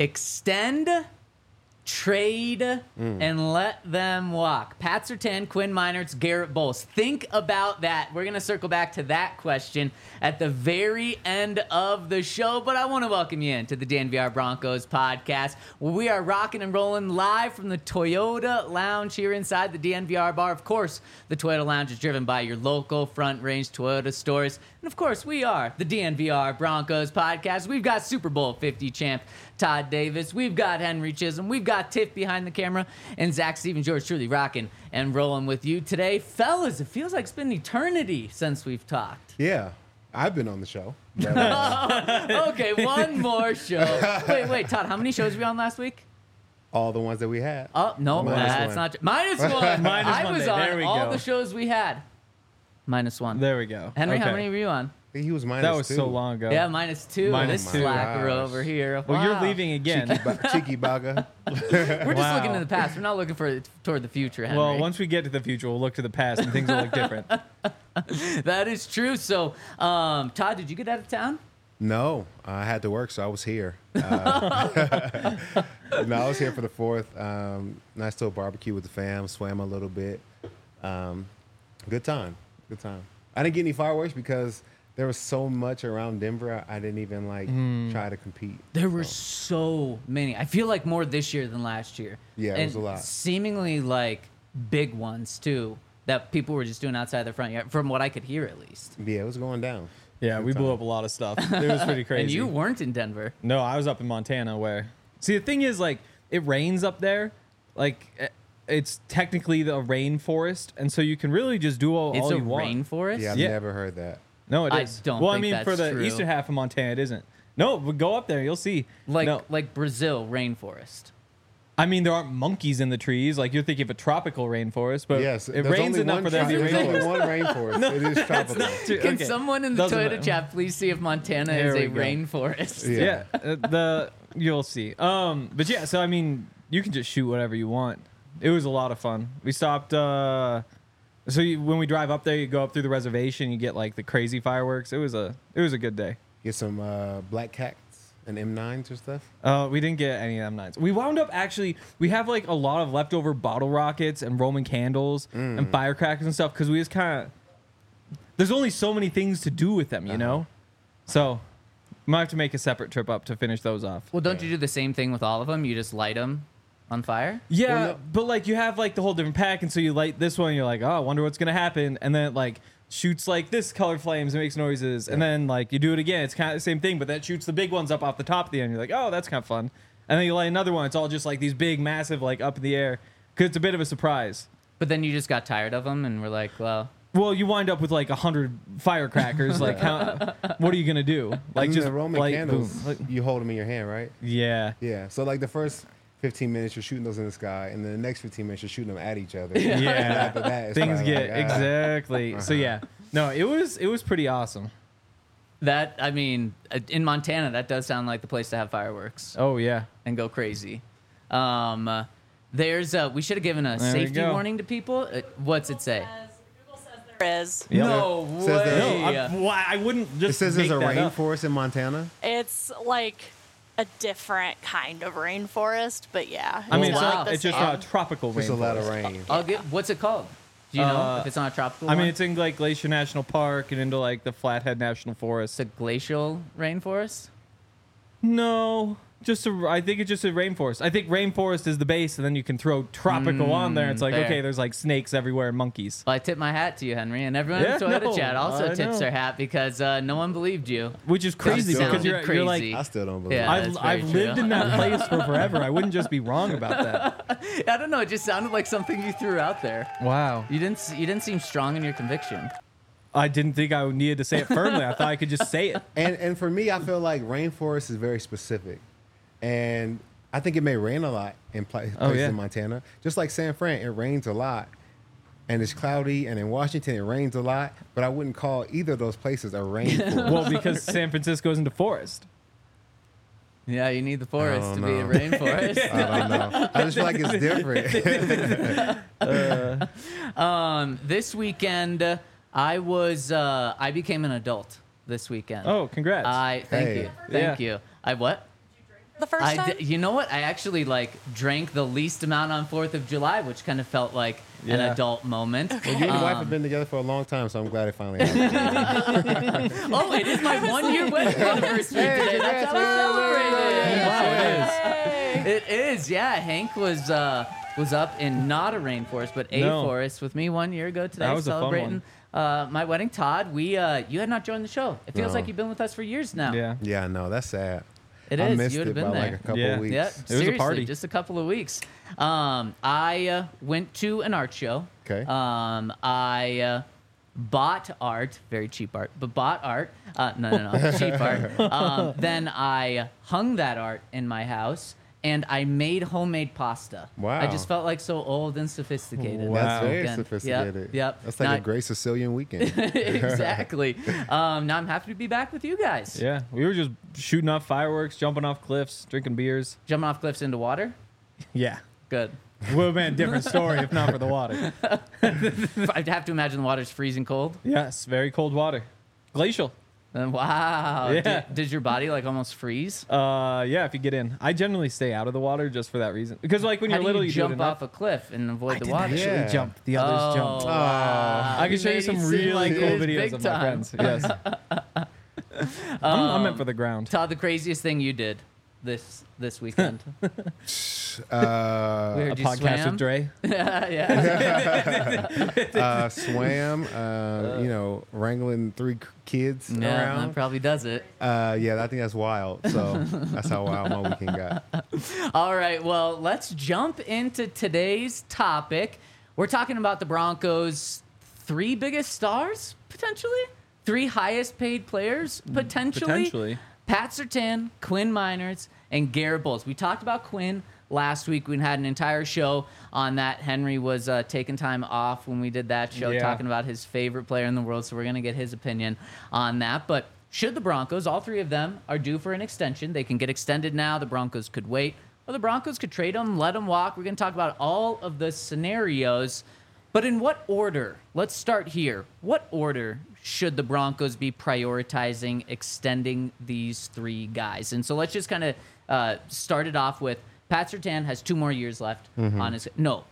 Extend, trade, and let them walk. Pat Surtain, Quinn Meinerz, Garrett Bowles. Think about that. We're going to circle back to that question at the very end of the show, but I want to welcome you into the DNVR Broncos podcast, where we are rocking and rolling live from the Toyota Lounge here inside the DNVR bar. Of course, the Toyota Lounge is driven by your local Front Range Toyota stores. And of course, we are the DNVR Broncos podcast. We've got Super Bowl 50 champ Todd Davis. We've got Henry Chisholm. We've got Tiff behind the camera. And Zach Stevens, George truly rocking and rolling with you today. Fellas, it feels like it's been an eternity since we've talked. Yeah, I've been on the show. But, Okay, one more show. Wait, Todd, how many shows were we on last week? all the ones that we had. Oh, no, Minus that's one. not true. Minus one. Minus I one was day. on There we all go. the shows we had. Minus one. There we go. Henry, how Okay. many were you on? He was minus That was two. so long ago. Yeah, minus two. Minus This two. slacker Gosh. over here. Well, you're Wow. leaving again. Cheeky Baga. We're just Wow. looking to the past. We're not looking toward the future, Henry. Well, once we get to the future, we'll look to the past and things will look different. That is true. So, Todd, did you get out of town? No, I had to work, so I was here. No, I was here for the 4th. Nice little barbecue with the fam, swam a little bit. Good time. Good time. I didn't get any fireworks because there was so much around Denver. I didn't even try to compete. There were so many. I feel like more this year than last year. Yeah, it and was a lot. Seemingly like big ones too that people were just doing outside their front yard, from what I could hear at least. Yeah, it was going down. Yeah, we blew up a lot of stuff. It was pretty crazy. And you weren't in Denver. No, I was up in Montana where. See, the thing is, like, it rains up there. Like, it's technically the rainforest, and so you can really just do all It's a you want. rainforest. Yeah, I've Yeah. never heard that. No, it I is. don't well, I think mean, that's for the true. eastern half of Montana, it isn't. No, but go up there, you'll see. Like no, like Brazil rainforest. I mean, there aren't monkeys in the trees. Like, you're thinking of a tropical rainforest, but Yes, it there's rains only enough one for there to be There's only rainforest. one rainforest. It is tropical. Can Okay. someone in the Doesn't Toyota matter. chat please see if Montana There is we a go. rainforest? Yeah. Yeah, you'll see. But yeah, so I mean, you can just shoot whatever you want. It was a lot of fun. We stopped. When we drive up there, you go up through the reservation. You get like the crazy fireworks. It was a good day. Get some black cats and M9s or stuff. We didn't get any of them nights. We wound up we have like a lot of leftover bottle rockets and Roman candles and firecrackers and stuff because we just kind of. There's only so many things to do with them, you know. So, might have to make a separate trip up to finish those off. Well, don't you do the same thing with all of them? You just light them on fire? Yeah, Well, no- but like you have like the whole different pack, and so you light this one, and you're like, oh, I wonder what's gonna happen, and then it like shoots like this color flames and makes noises, and then like you do it again, it's kind of the same thing, but that shoots the big ones up off the top of the end. You're like, oh, that's kind of fun, and then you light another one. It's all just like these big, massive, like up in the air, because it's a bit of a surprise. But then you just got tired of them and were like, well, Well, you wind up with like 100 firecrackers. Like, what are you gonna do? Like, And just the Roman light, candles, boom. Like, you hold them in your hand, right? yeah. Yeah. So like the first 15 minutes, you're shooting those in the sky, and then the next 15 minutes, you're shooting them at each other. Yeah. And after that, it's Things kinda get like, exactly. So yeah, no, it was pretty awesome. that, I mean, in Montana, that does sound like the place to have fireworks Oh yeah. and go crazy. We should have given a There we safety go. warning to people. What's it say? Google says there is. Yep. No Says that- way. No, I wouldn't just. It says there's a make that up. rainforest in Montana. It's like a different kind of rainforest, but yeah. I mean, Wow. it's, like the it's just same. not a tropical There's a lot of rainforest. rain. I'll get. What's it called? Do you know if it's not a tropical? I mean, one? it's in like Glacier National Park and into like the Flathead National Forest. It's a glacial rainforest. No, I think it's just a rainforest. I think rainforest is the base, and then you can throw tropical on there. It's like, fair. okay, there's like snakes everywhere and monkeys. Well, I tip my hat to you, Henry, and everyone Yeah, in the Toyota no, chat also I tips know. their hat because no one believed you. Which is crazy sounded because you're like, crazy. I still don't believe Yeah. it. that's I've very lived true. in that place for forever. I wouldn't just be wrong about that. I don't know. It just sounded like something you threw out there. Wow. You didn't seem strong in your conviction. I didn't think I needed to say it firmly. I thought I could just say it. And for me, I feel like rainforest is very specific, and I think it may rain a lot in places yeah. in Montana. Just like San Fran, it rains a lot, and it's cloudy. And in Washington, it rains a lot. But I wouldn't call either of those places a rainforest. Well, because San Francisco's into forest. Yeah, you need the forest I to don't be a know. rainforest. I don't know. I just feel like it's different. This weekend, I became an adult. This weekend. Oh, congrats. Thank Hey. you, thank Yeah. you. I what? the first time? You know what? I actually drank the least amount on 4th of July, which kind of felt like an adult moment. Well, you and your wife have been together for a long time, so I'm glad it finally happened. Oh, it is my 1-year wedding anniversary today. That's how I celebrated. It is. Yeah, Hank was up in not a rainforest, but a forest with me 1 year ago today, That was celebrating my wedding. Todd, you had not joined the show. It feels like you've been with us for years now. Yeah. Yeah, no, that's sad. It I is. missed You would it have by been there. like a couple Yeah. of weeks. Yeah, was a seriously, party. just a couple of weeks. I went to an art show. Okay. I bought art, very cheap art, but bought art. No, cheap art. Then I hung that art in my house, and I made homemade pasta. Wow. I just felt like so old and sophisticated. Wow. That's very Again. sophisticated. Yep. That's like Now- a great Sicilian weekend. Exactly. Now I'm happy to be back with you guys. Yeah. We were just shooting off fireworks, jumping off cliffs, drinking beers. Jumping off cliffs into water. Yeah. Good. Would have been a different story if not for the water. I'd have to imagine the water's freezing cold. Yes. Very cold water. Glacial. Wow. Yeah. Did your body almost freeze? Yeah, if you get in. I generally stay out of the water just for that reason. Because when How you're do little, you you do it jump enough. off a cliff and avoid the I water? didn't actually Yeah. jump. The others jumped. Wow. I can show you Made it some seem really like cool it was videos big of my time. friends. Yes. I'm meant for the ground. Todd, the craziest thing you did this weekend? We Uh, heard A you podcast swam. with Dre. Yeah. swam, wrangling 3 kids Yeah, that around. probably does it. Yeah, I think that's wild. So that's how wild my weekend got. All right, well, let's jump into today's topic. We're talking about the Broncos' 3 biggest stars, potentially? 3 highest paid players, potentially? Potentially. Pat Surtain, Quinn Miners, and Garrett Bowles. We talked about Quinn last week. We had an entire show on that. Henry was taking time off when we did that show, Yeah. talking about his favorite player in the world, so we're going to get his opinion on that. But should the Broncos, all 3 of them, are due for an extension. They can get extended now. The Broncos could wait. Or the Broncos could trade them, let them walk. We're going to talk about all of the scenarios. But in what order? Let's start here. What order should the Broncos be prioritizing extending these 3 guys? And so let's just kind of start it off with Pat Surtain has 2 more years left on his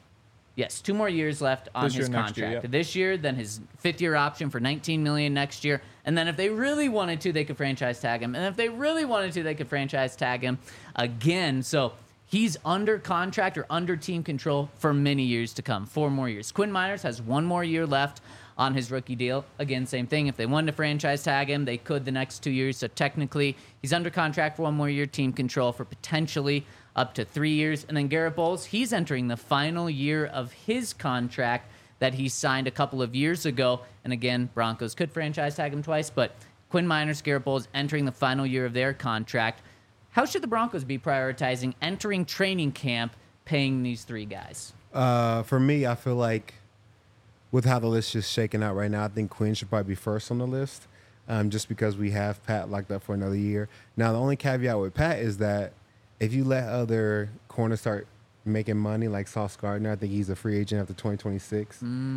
2 more years left on This year, his next year, contract. yep. This year, then his 5th-year option for $19 million next year, and then if they really wanted to, they could franchise tag him, and if they really wanted to, they could franchise tag him again. So he's under contract or under team control for many years to come, 4 more years. Quinn Miners has 1 more year left on his rookie deal. Again, same thing. If they wanted to franchise tag him, they could the next 2 years. So technically, he's under contract for 1 more year, team control for potentially up to 3 years. And then Garrett Bowles, he's entering the final year of his contract that he signed a couple of years ago. And again, Broncos could franchise tag him twice, but Quinn Miners, Garrett Bowles entering the final year of their contract. How should the Broncos be prioritizing entering training camp, paying these 3 guys? For me, I feel like with how the list is shaking out right now, I think Quinn should probably be first on the list, just because we have Pat locked up for another year. Now, the only caveat with Pat is that if you let other corners start making money, like Sauce Gardner, I think he's a free agent after 2026,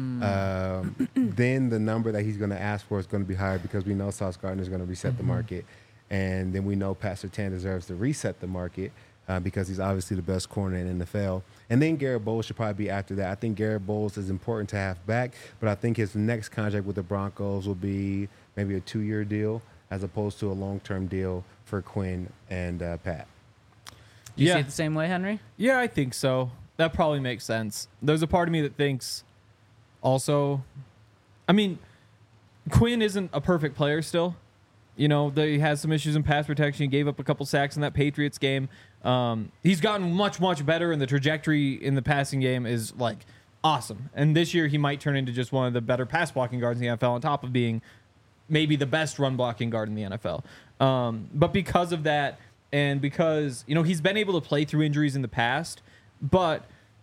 then the number that he's going to ask for is going to be higher because we know Sauce Gardner is going to reset the market. And then we know Pat Surtain deserves to reset the market because he's obviously the best corner in the NFL. And then Garrett Bowles should probably be after that. I think Garrett Bowles is important to have back, but I think his next contract with the Broncos will be maybe a 2-year deal as opposed to a long-term deal for Quinn and Pat. Do you Yeah. see it the same way, Henry? Yeah, I think so. That probably makes sense. There's a part of me that thinks also, I mean, Quinn isn't a perfect player still. You know, he has some issues in pass protection. He gave up a couple sacks in that Patriots game. He's gotten much, much better, and the trajectory in the passing game is, awesome. And this year, he might turn into just one of the better pass blocking guards in the NFL on top of being maybe the best run blocking guard in the NFL. But because of that, and because, he's been able to play through injuries in the past, but,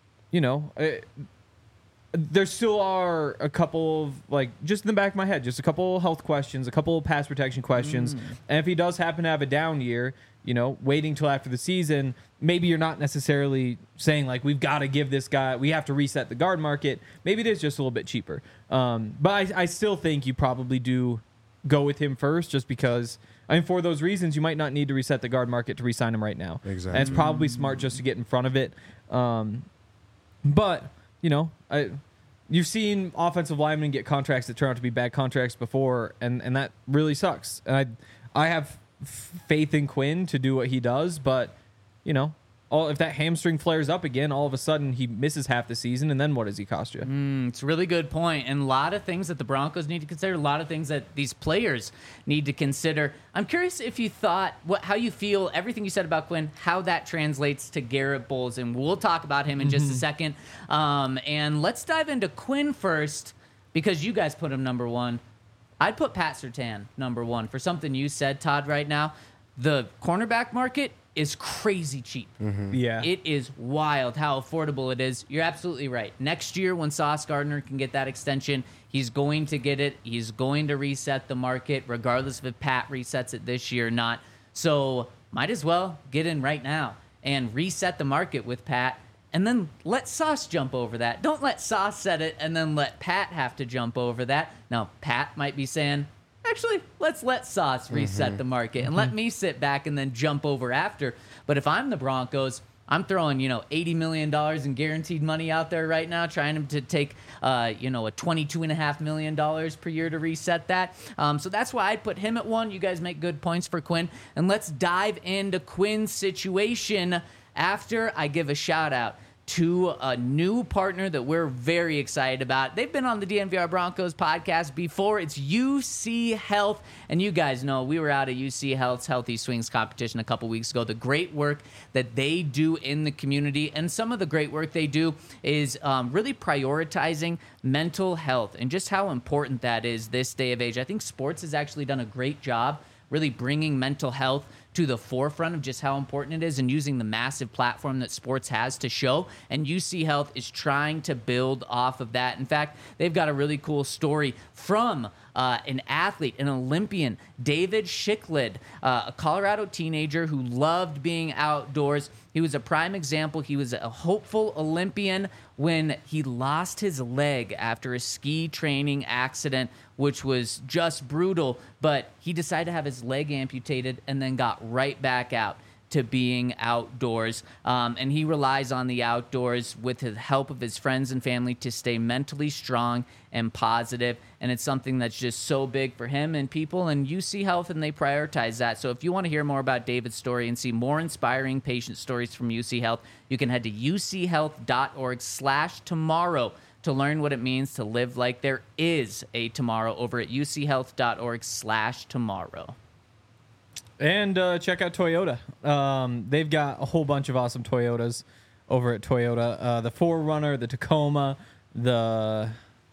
there still are a couple of, just in the back of my head, just a couple of health questions, a couple of pass protection questions. And if he does happen to have a down year, waiting till after the season, maybe you're not necessarily saying, we've got to give this guy, we have to reset the guard market. Maybe it is just a little bit cheaper. But I still think you probably do go with him first just because, I mean, for those reasons, you might not need to reset the guard market to re-sign him right now. Exactly. And it's probably smart just to get in front of it. But, you've seen offensive linemen get contracts that turn out to be bad contracts before, and that really sucks. And I have faith in Quinn to do what he does, but, if that hamstring flares up again, all of a sudden he misses half the season, and then what does he cost you? It's a really good point, and a lot of things that the Broncos need to consider, a lot of things that these players need to consider. I'm curious if you thought, how you feel, everything you said about Quinn, how that translates to Garrett Bowles, and we'll talk about him in just a second. And let's dive into Quinn first, because you guys put him number one. I'd put Pat Surtain number one for something you said, Todd, right now. The cornerback market is crazy cheap. Yeah. It is wild how affordable it is. You're absolutely right. Next year, when Sauce Gardner can get that extension, he's going to get it. He's going to reset the market, regardless if Pat resets it this year or not. So might as well get in right now and reset the market with Pat, and then let Sauce jump over that. Don't let Sauce set it and then let Pat have to jump over that. Now, Pat might be saying, actually, let's let Sauce reset the market and let me sit back and then jump over after. But if I'm the Broncos, I'm throwing, $80 million in guaranteed money out there right now, trying to take, a $22.5 million per year to reset that. So that's why I'd put him at one. You guys make good points for Quinn. And let's dive into Quinn's situation after I give a shout out to a new partner that we're very excited about. They've been on the DNVR Broncos podcast before. It's UC Health. And you guys know we were out at UC Health's Healthy Swings competition a couple weeks ago. The great work that they do in the community, and some of the great work they do is really prioritizing mental health and just how important that is this day of age. I think sports has actually done a great job really bringing mental health to the forefront of just how important it is and using the massive platform that sports has to show. And UC Health is trying to build off of that. In fact, they've got a really cool story from an athlete, an Olympian, David Schicklid, a Colorado teenager who loved being outdoors. He was a prime example. He was a hopeful Olympian when he lost his leg after a ski training accident, which was just brutal. But he decided to have his leg amputated and then got right back out to being outdoors. And he relies on the outdoors with the help of his friends and family to stay mentally strong and positive. And it's something that's just so big for him and people, and UC Health, and they prioritize that. So if you want to hear more about David's story and see more inspiring patient stories from UC Health, you can head to uchealth.org/tomorrow to learn what it means to live like there is a tomorrow over at uchealth.org/tomorrow. And check out Toyota. They've got a whole bunch of awesome Toyotas over at Toyota. The 4Runner, the Tacoma, the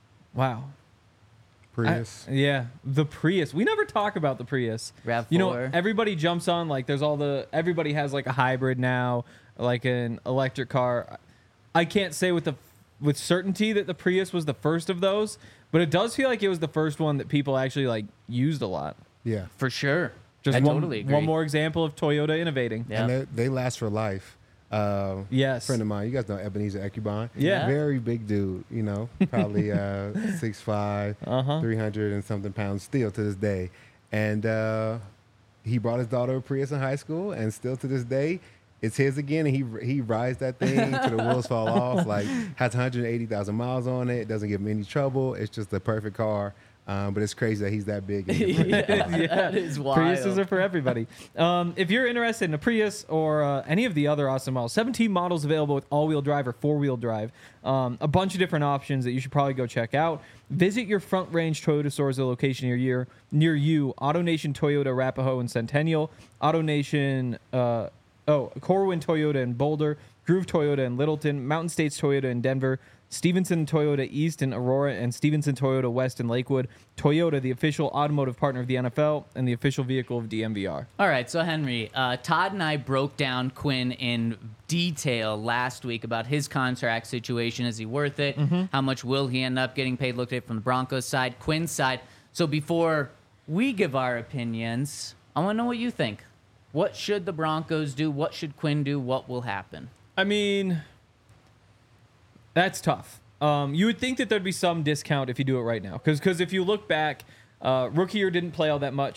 Prius. the Prius. We never talk about the Prius. RAV4. Everybody jumps on, like, everybody has like a hybrid now, like an electric car. I can't say with certainty that the Prius was the first of those, but it does feel like it was the first one that people actually like used a lot. Yeah. For sure. Just I one, totally agree. one more example of Toyota innovating. Yeah. And they last for life. Yes. Friend of mine, you guys know Ebenezer Ecubon. Yeah. Very big dude, probably 6'5", 300 and something pounds still to this day. And he brought his daughter a Prius in high school, and still to this day, it's his again. And he rides that thing till the wheels fall off. Like, has 180,000 miles on it. Doesn't give him any trouble. It's just the perfect car. But it's crazy that he's that big. That is wild. Priuses are for everybody. If you're interested in a Prius or any of the other awesome models, 17 models available with all-wheel drive or four-wheel drive. A bunch of different options that you should probably go check out. Visit your Front Range Toyota stores, a location near you. AutoNation Toyota Arapahoe and Centennial. AutoNation, Corwin Toyota in Boulder. Groove Toyota in Littleton. Mountain States Toyota in Denver. Stevenson Toyota East in Aurora, and Stevenson Toyota West in Lakewood. Toyota, the official automotive partner of the NFL and the official vehicle of DMVR. All right, so Henry, Todd and I broke down Quinn in detail last week about his contract situation. Is he worth it? How much will he end up getting paid? Looked at it from the Broncos side, Quinn's side. So before we give our opinions, I want to know what you think. What should the Broncos do? What should Quinn do? What will happen? I mean, that's tough. You would think that there'd be some discount if you do it right now. Because if you look back, rookie year didn't play all that much.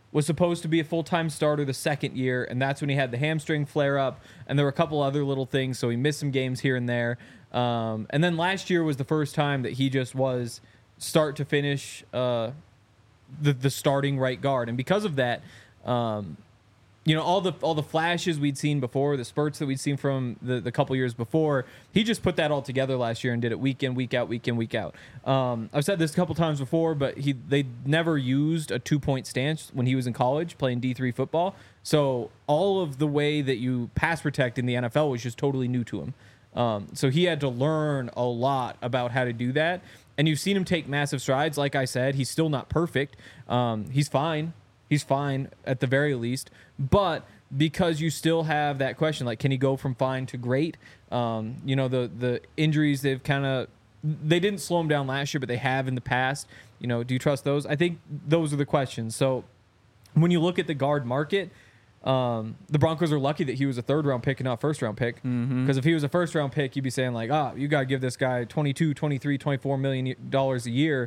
was supposed to be a full-time starter the second year, and that's when he had the hamstring flare-up, and there were a couple other little things, so he missed some games here and there. And then last year was the first time that he just was start to finish the starting right guard, and because of that, all the flashes we'd seen before, the spurts that we'd seen from the couple years before, he just put that all together last year and did it week in, week out, week in, week out. I've said this a couple times before, but they never used a 2-point stance when he was in college playing D3 football. So all of the way that you pass protect in the NFL was just totally new to him. So he had to learn a lot about how to do that. And you've seen him take massive strides. Like I said, he's still not perfect. He's fine. He's fine at the very least. But because you still have that question, like, can he go from fine to great? The injuries, they didn't slow him down last year, but they have in the past. Do you trust those? I think those are the questions. So when you look at the guard market, the Broncos are lucky that he was a 3rd-round pick and not 1st-round pick. Because if he was a 1st-round pick, you'd be saying, like, you got to give this guy $22, $23, $24 million a year.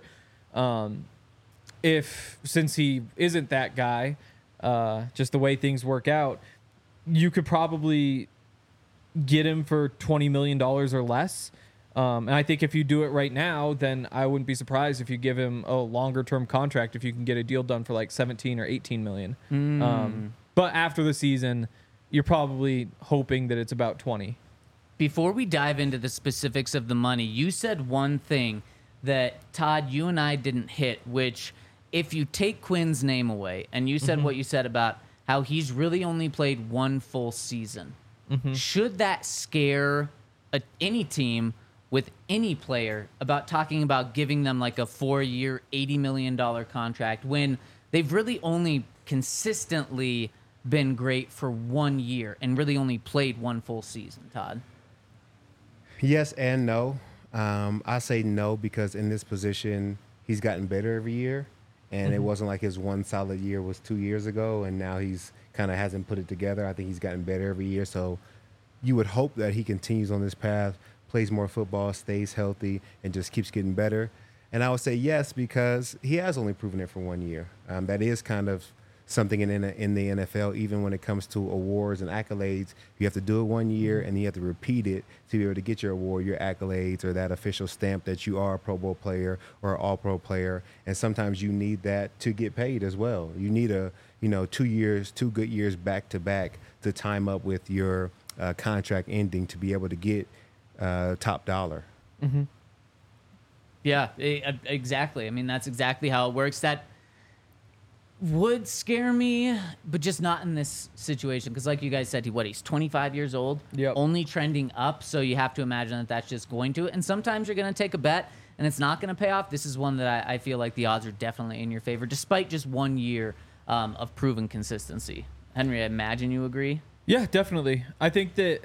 Since he isn't that guy, just the way things work out, you could probably get him for $20 million or less. And I think if you do it right now, then I wouldn't be surprised if you give him a longer term contract if you can get a deal done for like 17 or 18 million. But after the season, you're probably hoping that it's about 20. Before we dive into the specifics of the money, you said one thing that, Todd, you and I didn't hit, which if you take Quinn's name away, and you said what you said about how he's really only played one full season, should that scare any team with any player about talking about giving them like a 4-year, $80 million contract when they've really only consistently been great for 1 year and really only played one full season, Todd? Yes and no. I say no because in this position, he's gotten better every year. And it wasn't like his one solid year was 2 years ago, and now he's kind of hasn't put it together. I think he's gotten better every year. So you would hope that he continues on this path, plays more football, stays healthy, and just keeps getting better. And I would say yes because he has only proven it for 1 year. That is kind of something in the NFL, even when it comes to awards and accolades. You have to do it 1 year, and you have to repeat it to be able to get your award, your accolades, or that official stamp that you are a Pro Bowl player or an All-Pro player. And sometimes you need that to get paid as well. You need 2 good years back to back to time up with your contract ending to be able to get top dollar. Yeah, exactly. I mean, that's exactly how it works. That would scare me, but just not in this situation. Because like you guys said, he's 25 years old, only trending up. So you have to imagine that that's just going to. And sometimes you're going to take a bet and it's not going to pay off. This is one that I feel like the odds are definitely in your favor, despite just 1 year of proven consistency. Henry, I imagine you agree? Yeah, definitely. I think that,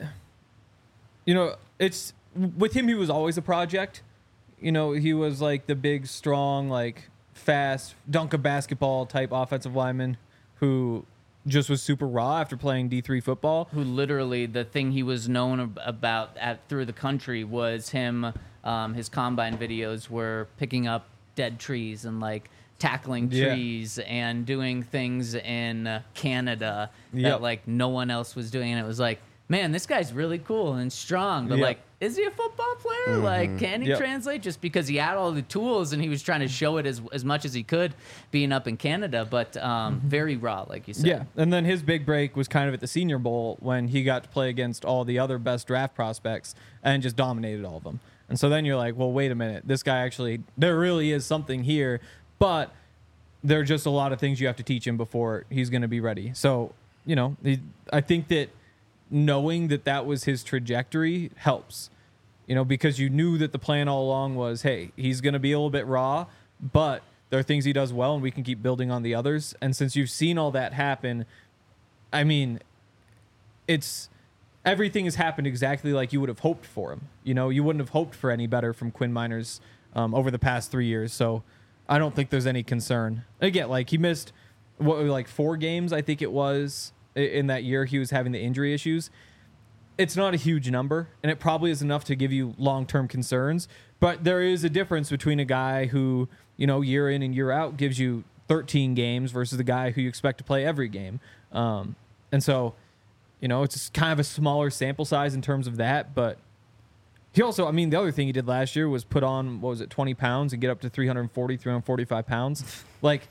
it's with him, he was always a project. He was like the big, strong, like fast, dunk a basketball type offensive lineman who just was super raw after playing D3 football. Who literally, the thing he was known about through the country was him, his combine videos were picking up dead trees and like tackling trees and doing things in Canada that like no one else was doing. And it was like, man, this guy's really cool and strong, but like, is he a football player? Like, can he translate? Just because he had all the tools and he was trying to show it as much as he could being up in Canada, but very raw, like you said. Yeah, and then his big break was kind of at the Senior Bowl when he got to play against all the other best draft prospects and just dominated all of them. And so then you're like, well, wait a minute. This guy actually, there really is something here, but there are just a lot of things you have to teach him before he's going to be ready. So, I think that knowing that was his trajectory helps, because you knew that the plan all along was, hey, he's going to be a little bit raw, but there are things he does well and we can keep building on the others. And since you've seen all that happen, I mean, everything has happened exactly like you would have hoped for him. You wouldn't have hoped for any better from Quinn Meinerz over the past 3 years. So I don't think there's any concern. Again, like he missed 4 games, I think it was, in that year he was having the injury issues. It's not a huge number, and it probably is enough to give you long-term concerns. But there is a difference between a guy who, year in and year out gives you 13 games versus the guy who you expect to play every game. And so, it's just kind of a smaller sample size in terms of that. But he also, the other thing he did last year was put on, 20 pounds and get up to 345 pounds. Like,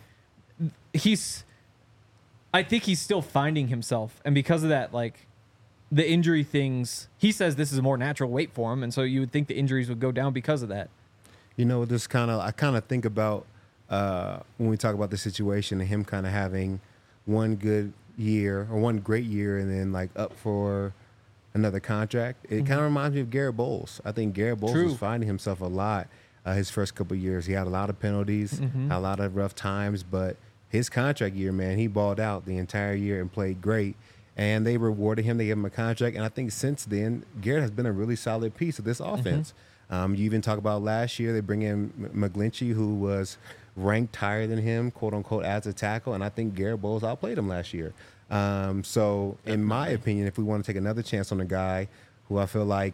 I think he's still finding himself. And because of that, like, the injury things, he says this is a more natural weight for him. And so you would think the injuries would go down because of that. I kind of think about when we talk about the situation and him kind of having one good year or one great year and then like up for another contract. It kind of reminds me of Garrett Bowles. I think Garrett Bowles was finding himself a lot his first couple of years. He had a lot of penalties, had a lot of rough times, but his contract year, man, he balled out the entire year and played great. And they rewarded him. They gave him a contract. And I think since then, Garrett has been a really solid piece of this offense. You even talk about last year, they bring in McGlinchey, who was ranked higher than him, quote unquote, as a tackle. And I think Garrett Bowles outplayed him last year. So in my opinion, if we want to take another chance on a guy who I feel like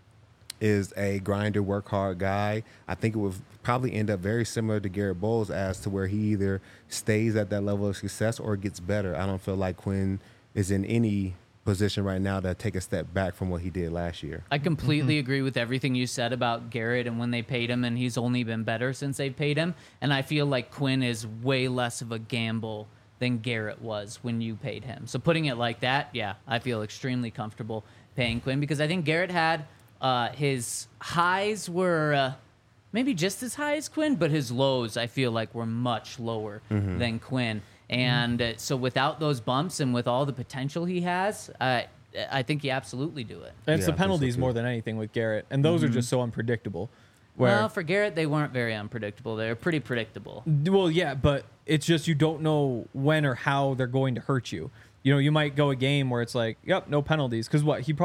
is a grinder, work hard guy, I think it would probably end up very similar to Garrett Bowles as to where he either stays at that level of success or gets better. I don't feel like Quinn is in any position right now to take a step back from what he did last year. I completely agree with everything you said about Garrett and when they paid him, and he's only been better since they paid him. And I feel like Quinn is way less of a gamble than Garrett was when you paid him. So putting it like that, yeah, I feel extremely comfortable paying Quinn because I think Garrett had his highs were maybe just as high as Quinn, but his lows I feel like were much lower than Quinn. And so without those bumps and with all the potential he has, I think you absolutely do it. And it's Yeah, the I think so, penalties too. more than anything with Garrett. And those are just so unpredictable. Well, for Garrett, they weren't very unpredictable. They were pretty predictable. Well, yeah, but it's just you don't know when or how they're going to hurt you. You might go a game where it's like, yep, no penalties. Because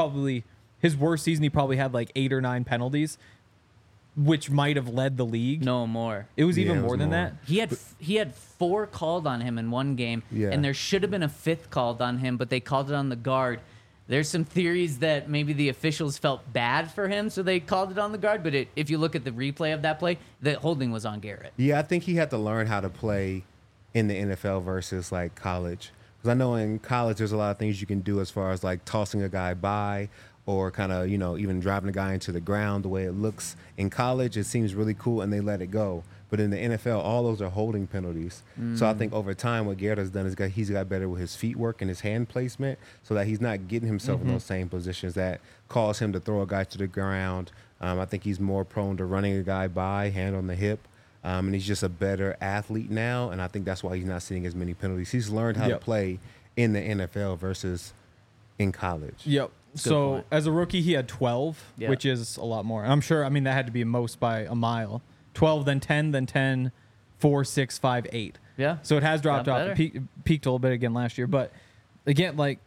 his worst season, he probably had like 8 or 9 penalties, which might have led the league. No more. It was even it was more than more. that. He had 4 called on him in one game, Yeah. and there should have been a 5th called on him, but they called it on the guard. There's some theories that maybe the officials felt bad for him, so they called it on the guard. But if you look at the replay of that play, the holding was on Garrett. Yeah, I think he had to learn how to play in the NFL versus like college. Because I know in college there's a lot of things you can do as far as like tossing a guy by or kind of, even driving a guy into the ground the way it looks. In college, it seems really cool and they let it go. But in the NFL, all those are holding penalties. So I think over time, what Garrett has done is he's got better with his feet work and his hand placement so that he's not getting himself in those same positions that cause him to throw a guy to the ground. I think he's more prone to running a guy by, hand on the hip. And he's just a better athlete now. And I think that's why he's not seeing as many penalties. He's learned how to play in the NFL versus in college. Yep. So point. as a rookie, he had 12, Yeah. which is a lot more. And I'm sure, that had to be most by a mile. 12, then 10, 4, 6, 5, 8. Yeah. So it has dropped Got off. better. It peaked a little bit again last year. But again, like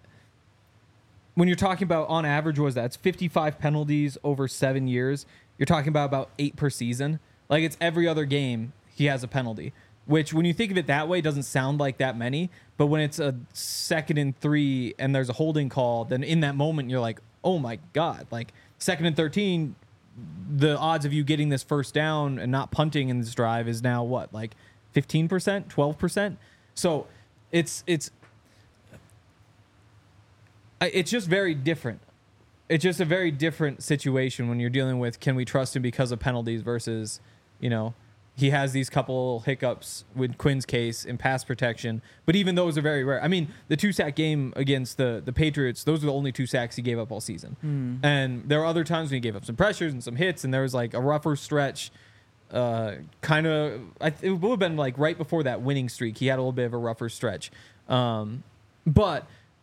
when you're talking about on average, what is that? It's 55 penalties over 7 years. You're talking about 8 per season. Like it's every other game he has a penalty, which when you think of it that way, doesn't sound like that many. But when it's a 2nd and 3 and there's a holding call, then in that moment, you're like, oh my God, like 2nd and 13, the odds of you getting this first down and not punting in this drive is now what, like 15%, 12%? So it's just very different. It's just a very different situation when you're dealing with, can we trust him because of penalties versus, he has these couple hiccups with Quinn's case in pass protection, but even those are very rare. The 2-sack game against the Patriots, those are the only 2 sacks he gave up all season. And there were other times when he gave up some pressures and some hits, and there was like a rougher stretch. It would have been like right before that winning streak. He had a little bit of a rougher stretch. But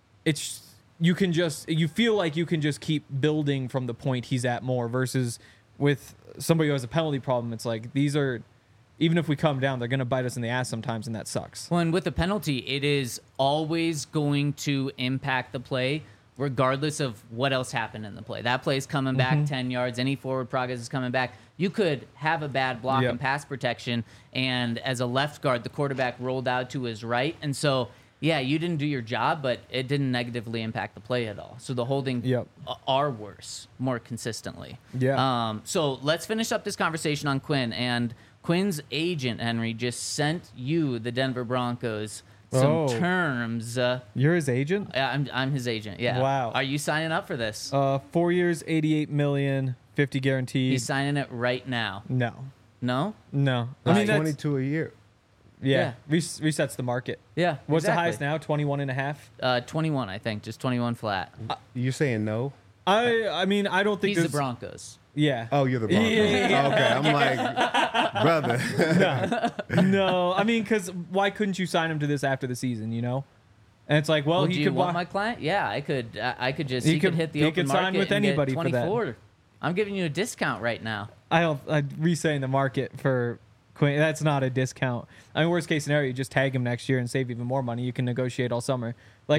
you feel like you can just keep building from the point he's at more versus with somebody who has a penalty problem. It's like even if we come down, they're going to bite us in the ass sometimes, and that sucks. Well, and with a penalty, it is always going to impact the play, regardless of what else happened in the play. That play's coming back 10 yards. Any forward progress is coming back. You could have a bad block in pass protection, and as a left guard, the quarterback rolled out to his right. And so, yeah, you didn't do your job, but it didn't negatively impact the play at all. So the holding are worse more consistently. Yeah. So let's finish up this conversation on Quinn. And Quinn's agent, Henry, just sent you, the Denver Broncos, some Oh. terms. You're his agent? I'm his agent. Yeah. Wow. Are you signing up for this? 4 years, 88 million, 50 guaranteed. He's signing it right now. No. No? No. I That's mean, that's, 22 a year. yeah, resets the market. Yeah. What's the exactly. highest now? 21 and a half? 21, I think. Just 21 flat. You're saying no? I mean, I don't think He's the there's... Broncos. Yeah. Oh, you're the Broncos. Yeah. Okay, I'm like, brother. No, I mean, because why couldn't you sign him to this after the season, you know? And it's like, well, Well, he do could you want wa- my client? Yeah, I could. I could just. He He could could- hit the he open could sign market with and get anybody for that. 24. I'm giving you a discount right now. I'd re-saying the market for Quinn. That's not a discount. I mean, worst case scenario, you just tag him next year and save even more money. You can negotiate all summer. Like,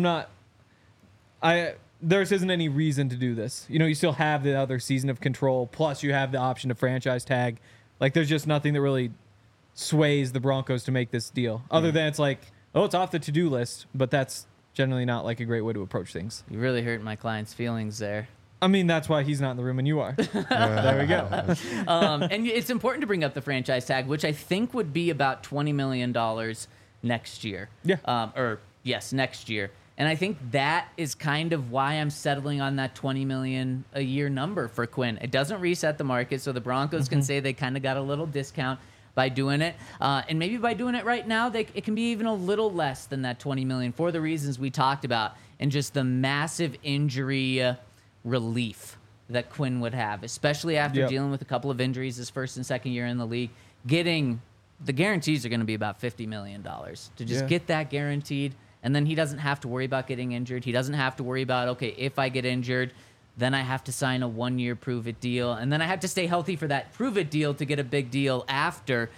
there isn't any reason to do this. You know, you still have the other season of control, plus you have the option to franchise tag. Like, there's just nothing that really sways the Broncos to make this deal. Other than it's like, oh, it's off the to-do list, but that's generally not like a great way to approach things. You really hurt my client's feelings there. I mean, that's why he's not in the room and you are. There we go. And it's important to bring up the franchise tag, which I think would be about $20 million next year. Yeah. Next year. And I think that is kind of why I'm settling on that $20 million a year number for Quinn. It doesn't reset the market, so the Broncos can say they kind of got a little discount by doing it. And maybe by doing it right now, it can be even a little less than that $20 million for the reasons we talked about and just the massive injury relief that Quinn would have, especially after Yep. dealing with a couple of injuries his first and second year in the league. Getting the guarantees are going to be about $50 million to just Yeah. get that guaranteed. And then he doesn't have to worry about getting injured. He doesn't have to worry about, okay, if I get injured, then I have to sign a 1-year prove-it deal. And then I have to stay healthy for that prove-it deal to get a big deal after.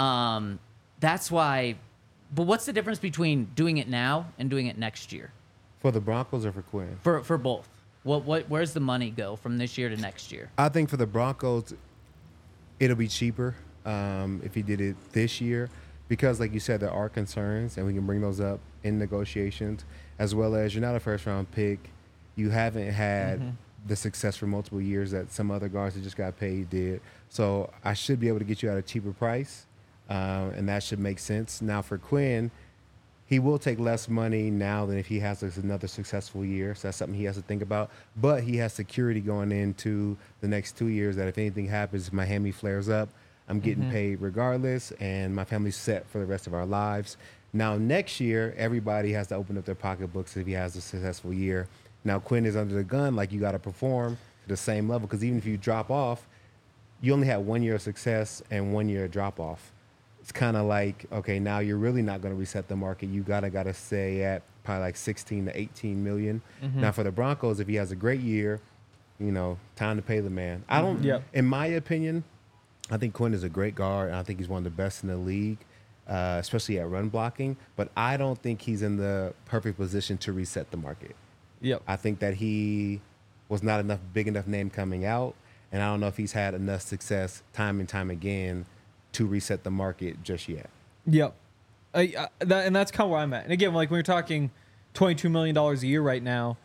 That's why. But what's the difference between doing it now and doing it next year? For the Broncos or for Quinn? For both. Where's the money go from this year to next year? I think for the Broncos, it'll be cheaper if he did it this year because, like you said, there are concerns, and we can bring those up in negotiations, as well as you're not a first-round pick. You haven't had the success for multiple years that some other guards that just got paid did. So I should be able to get you at a cheaper price, and that should make sense. Now for Quinn, he will take less money now than if he has another successful year. So that's something he has to think about. But he has security going into the next 2 years that if anything happens, if my hammy flares up, I'm getting paid regardless, and my family's set for the rest of our lives. Now, next year, everybody has to open up their pocketbooks if he has a successful year. Now, Quinn is under the gun, like you got to perform to the same level, because even if you drop off, you only have 1 year of success and 1 year of drop off. It's kind of like, okay, now you're really not going to reset the market. You gotta stay at probably like 16 to 18 million. Now for the Broncos, if he has a great year, you know, time to pay the man. I don't. Yep. In my opinion, I think Quinn is a great guard, and I think he's one of the best in the league, especially at run blocking. But I don't think he's in the perfect position to reset the market. Yep. I think that he was not big enough name coming out, and I don't know if he's had enough success time and time again to reset the market just yet. Yep. And that's kind of where I'm at. And again, like when you're talking $22 million a year right now,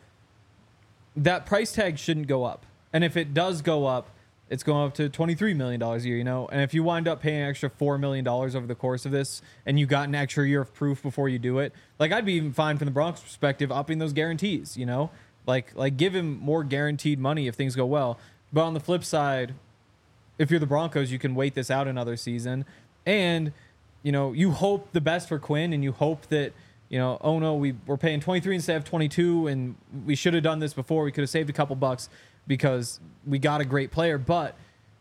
that price tag shouldn't go up. And if it does go up, it's going up to $23 million a year, you know? And if you wind up paying an extra $4 million over the course of this and you got an extra year of proof before you do it, like I'd be even fine from the Broncos perspective upping those guarantees, you know? Like give him more guaranteed money if things go well. But on the flip side, if you're the Broncos, you can wait this out another season. And, you know, you hope the best for Quinn, and you hope that, you know, oh no, we're paying 23 instead of 22, and we should have done this before. We could have saved a couple bucks because we got a great player. But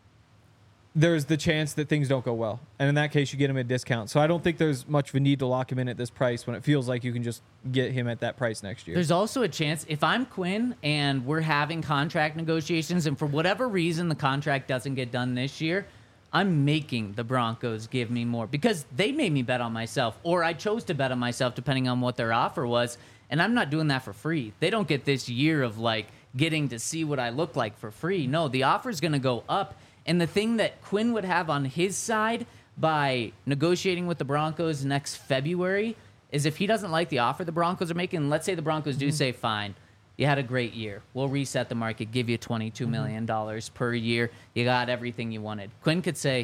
there's the chance that things don't go well. And in that case, you get him at a discount. So I don't think there's much of a need to lock him in at this price when it feels like you can just get him at that price next year. There's also a chance if I'm Quinn and we're having contract negotiations and for whatever reason the contract doesn't get done this year, I'm making the Broncos give me more because they made me bet on myself, or I chose to bet on myself depending on what their offer was, and I'm not doing that for free. They don't get this year of like getting to see what I look like for free. No, the offer's going to go up. And the thing that Quinn would have on his side by negotiating with the Broncos next February is if he doesn't like the offer the Broncos are making, let's say the Broncos do say, fine, you had a great year. We'll reset the market, give you $22 million per year. You got everything you wanted. Quinn could say,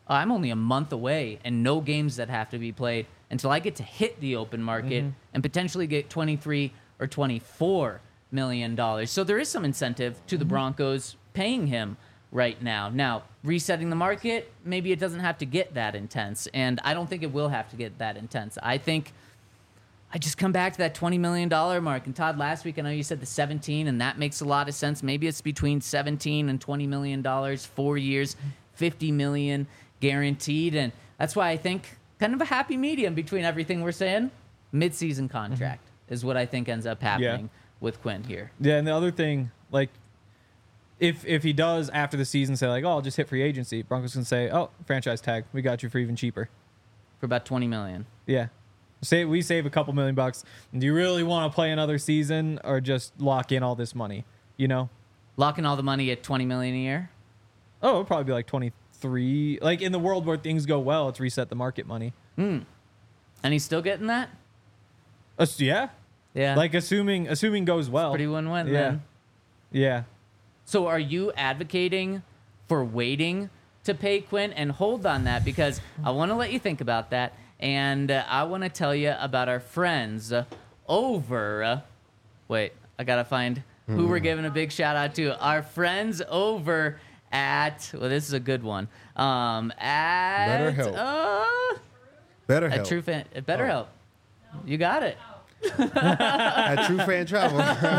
I'm only a month away and no games that have to be played until I get to hit the open market and potentially get 23 or 24 million dollars. So there is some incentive to the Broncos paying him right now. Now, resetting the market, maybe it doesn't have to get that intense, and I don't think it will have to get that intense. I think I just come back to that $20 million mark. And Todd, last week I know you said the 17, and that makes a lot of sense. Maybe it's between 17 and $20 million, 4 years, 50 million guaranteed, and that's why I think kind of a happy medium between everything we're saying. Mid-season contract is what I think ends up happening with Quinn here. Yeah, and the other thing, like, if he does after the season say like, oh, I'll just hit free agency, Broncos can say, oh, franchise tag, we got you for even cheaper. For about 20 million. Yeah. Say we save a couple $1 million. Do you really want to play another season or just lock in all this money? You know? Locking all the money at 20 million a year? Oh, it'll probably be like 23. Like in the world where things go well, it's reset the market money. And he's still getting that? Yeah. Yeah. Like assuming goes well. Pretty win-win Yeah. then. Yeah. So are you advocating for waiting to pay Quinn? And hold on that, because I want to let you think about that. And I want to tell you about our friends over. Wait, I got to find who we're giving a big shout out to. Our friends over at, well, this is a good one. At BetterHelp. BetterHelp. At True Fan, at BetterHelp. You got it. At True Fan Travel.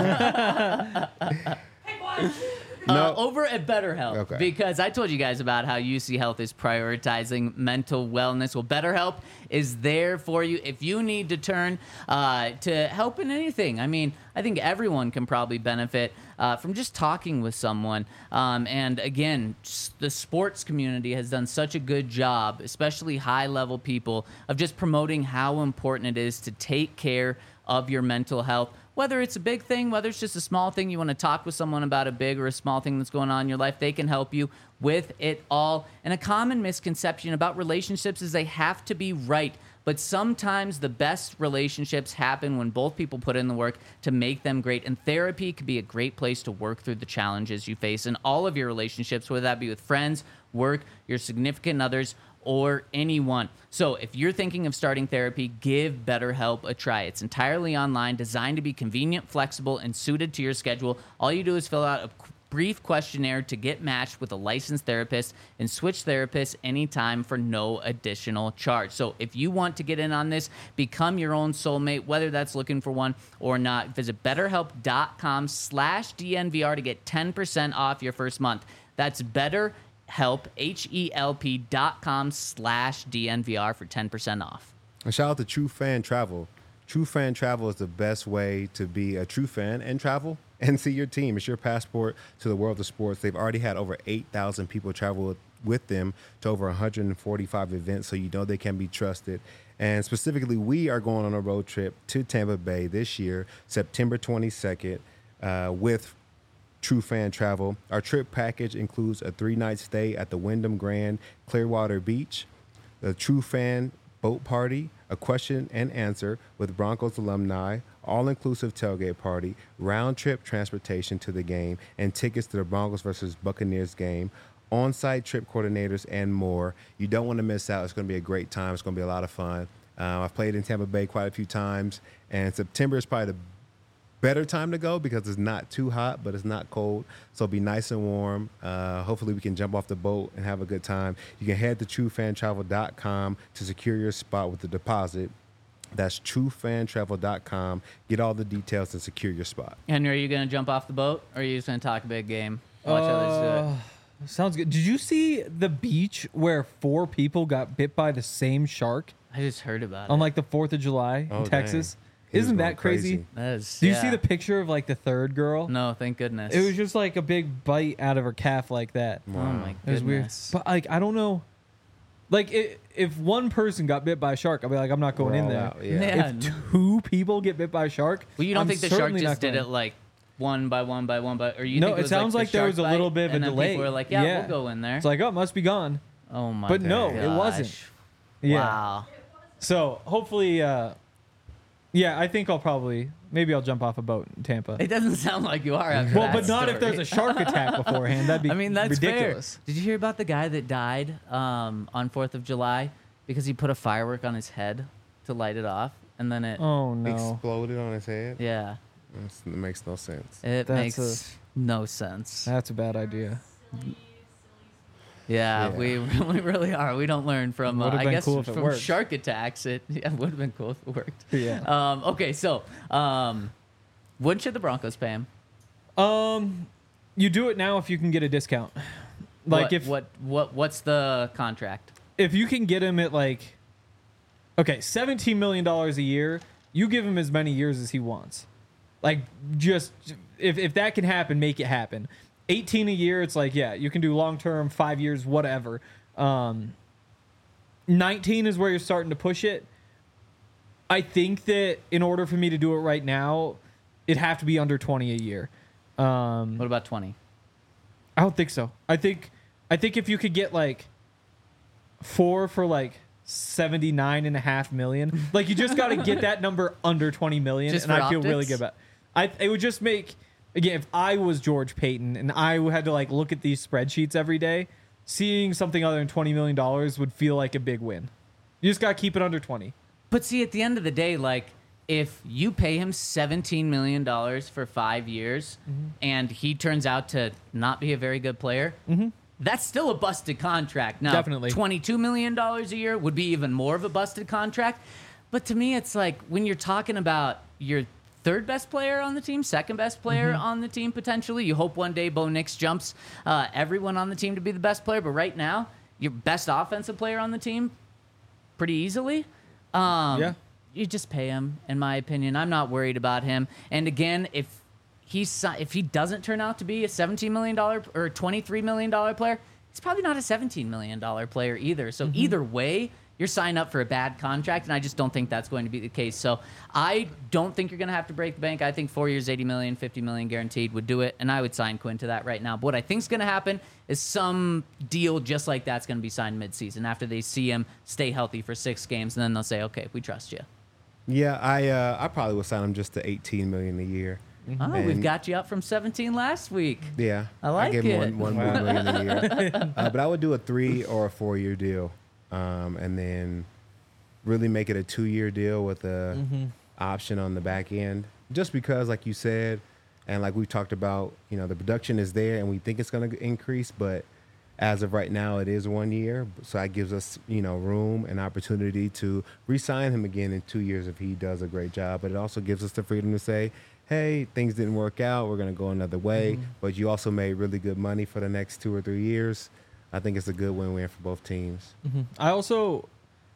No. Over at BetterHelp, Okay. because I told you guys about how UC Health is prioritizing mental wellness. Well, BetterHelp is there for you if you need to turn to help in anything. I mean, I think everyone can probably benefit from just talking with someone. And again, the sports community has done such a good job, especially high-level people, of just promoting how important it is to take care of your mental health. Whether it's a big thing, whether it's just a small thing, you want to talk with someone about a big or a small thing that's going on in your life, they can help you with it all. And a common misconception about relationships is they have to be right. But sometimes the best relationships happen when both people put in the work to make them great. And therapy can be a great place to work through the challenges you face in all of your relationships, whether that be with friends, work, your significant others, or anyone. So if you're thinking of starting therapy, give BetterHelp a try. It's entirely online, designed to be convenient, flexible, and suited to your schedule. All you do is fill out a brief questionnaire to get matched with a licensed therapist and switch therapists anytime for no additional charge. So if you want to get in on this, become your own soulmate, whether that's looking for one or not, visit betterhelp.com/DNVR to get 10% off your first month. That's BetterHelp, HELP.com/DNVR for 10% off. And shout out to True Fan Travel. True Fan Travel is the best way to be a true fan and travel and see your team. It's your passport to the world of sports. They've already had over 8,000 people travel with them to over 145 events, so you know they can be trusted. And specifically, we are going on a road trip to Tampa Bay this year, September 22nd, with True Fan Travel. Our trip package includes a 3-night stay at the Wyndham Grand Clearwater Beach, the True Fan boat party, a question and answer with Broncos alumni, all-inclusive tailgate party, round-trip transportation to the game, and tickets to the Broncos versus Buccaneers game, on-site trip coordinators, and more. You don't want to miss out. It's going to be a great time. It's going to be a lot of fun. I've played in Tampa Bay quite a few times, and September is probably the better time to go because it's not too hot, but it's not cold. So it'll be nice and warm. Hopefully we can jump off the boat and have a good time. You can head to truefantravel.com to secure your spot with a deposit. That's truefantravel.com. Get all the details and secure your spot. Henry, are you going to jump off the boat, or are you just going to talk a big game? Watch others do it. Sounds good. Did you see the beach where 4 people got bit by the same shark I just heard about on it. like the 4th of July Oh, in Texas? dang. He was Isn't going that crazy? crazy. That is, Do you yeah. see the picture of like the third girl? No, thank goodness. It was just like a big bite out of her calf like that. Oh my It was weird. goodness. But like, I don't know. Like, if one person got bit by a shark, I'll be like, I'm not going We're in all there. out, yeah. Yeah. If 2 people get bit by a shark, Well, you don't I'm think the shark certainly just not did going. it like one by one by one by, or you No, think it was sounds like the there was shark a little bite, bit of a and then delay. People were like, yeah, Yeah. we'll go in there. It's like, oh, it must be gone. Oh my But no, gosh. it wasn't. Yeah. Wow. So hopefully Yeah, I think maybe I'll jump off a boat in Tampa. It doesn't sound like you are after Well, that but not if story. there's a shark attack beforehand. That'd be I mean, that's ridiculous. fair. Did you hear about the guy that died on 4th of July because he put a firework on his head to light it off, and then it, Oh no. Exploded on his head. yeah, It makes no sense. it That's makes no sense. That's a bad idea. Yeah, Yeah. we really are. We don't learn from, Would've I been guess, cool if it from worked. shark attacks. It would have been cool if it worked. Yeah. Okay, so when should the Broncos pay him? You do it now if you can get a discount. Like what's the contract? if you can get him at like, okay, $17 million a year, you give him as many years as he wants. Like, just if that can happen, make it happen. 18 a year, it's like, yeah, you can do long term, 5 years, whatever. 19 is where you're starting to push it. I think that in order for me to do it right now, it'd have to be under 20 a year. What about 20? I don't think so. I think if you could get like 4 for like 79.5 million, like you just got to get that number under 20 million, Just and for I feel really optics? good about it. It would just make, again, if I was George Payton and I had to like look at these spreadsheets every day, seeing something other than $20 million would feel like a big win. You just got to keep it under 20. But see, at the end of the day, like, if you pay him $17 million for 5 years and he turns out to not be a very good player, that's still a busted contract. Now, Definitely. $22 million a year would be even more of a busted contract. But to me, it's like when you're talking about your third best player on the team, second best player on the team, potentially, you hope one day Bo Nix jumps everyone on the team to be the best player. But right now, your best offensive player on the team, pretty easily. Yeah. You just pay him, in my opinion. I'm not worried about him. And again, if he doesn't turn out to be a $17 million or $23 million player, he's probably not a $17 million player either. So either way, you're signing up for a bad contract, and I just don't think that's going to be the case. So I don't think you're going to have to break the bank. I think 4 years, $80 million, $50 million guaranteed would do it, and I would sign Quinn to that right now. But what I think is going to happen is some deal just like that's going to be signed midseason after they see him stay healthy for 6 games, and then they'll say, okay, we trust you. Yeah, I probably would sign him just to $18 million a year. Oh, And- we've got you up from 17 last week. Yeah, I like gave him it. one more million a year. But I would do a 3 or a 4 year deal, and then really make it a 2-year deal with a option on the back end. Just because, like you said, and like we've talked about, the production is there, and we think it's going to increase, but as of right now, it is 1 year, so that gives us, room and opportunity to re-sign him again in 2 years if he does a great job. But it also gives us the freedom to say, hey, things didn't work out, we're going to go another way, but you also made really good money for the next 2 or 3 years. I think it's a good win-win for both teams. I also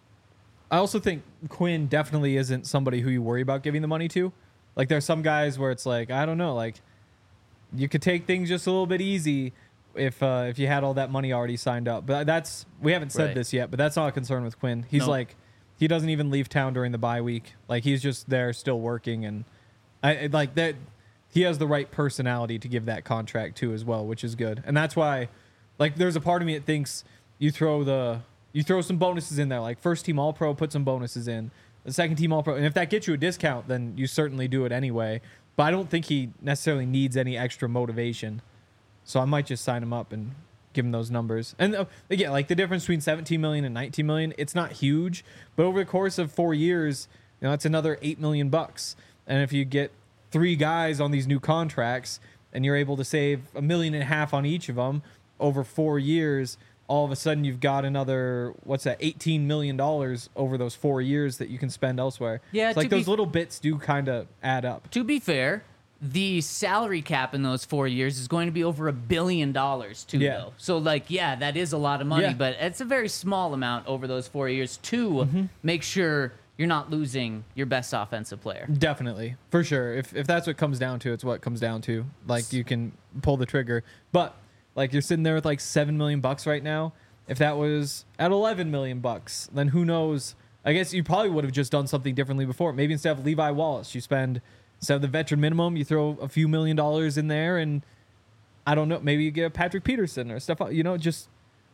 think Quinn definitely isn't somebody who you worry about giving the money to. Like, there's some guys where it's like, I don't know, like, you could take things just a little bit easy if you had all that money already signed up. But we haven't said Right. this yet, but that's not a concern with Quinn. He's Nope. like, he doesn't even leave town during the bye week. Like, he's just there still working, and I like that. He has the right personality to give that contract to as well, which is good. And that's why, like, there's a part of me that thinks you throw some bonuses in there, like first team All Pro, put some bonuses in, the second team All Pro, and if that gets you a discount, then you certainly do it anyway. But I don't think he necessarily needs any extra motivation, so I might just sign him up and give him those numbers. And again, like the difference between 17 million and 19 million, it's not huge, but over the course of 4 years, that's another $8 million. And if you get 3 guys on these new contracts and you're able to save $1.5 million on each of them over 4 years, all of a sudden you've got another, $18 million over those 4 years that you can spend elsewhere. Yeah, It's like to be those little bits do kind of add up. To be fair, the salary cap in those 4 years is going to be over $1 billion too, Yeah. though. So, that is a lot of money, Yeah. but it's a very small amount over those 4 years to make sure you're not losing your best offensive player. Definitely, for sure. If that's what comes down to, it's what it comes down to. Like, you can pull the trigger, but like you're sitting there with like $7 million right now. If that was at $11 million, then who knows? I guess you probably would have just done something differently before. Maybe instead of Levi Wallace, instead of the veteran minimum, you throw a few $1 million in there, and I don't know, maybe you get a Patrick Peterson or stuff. Just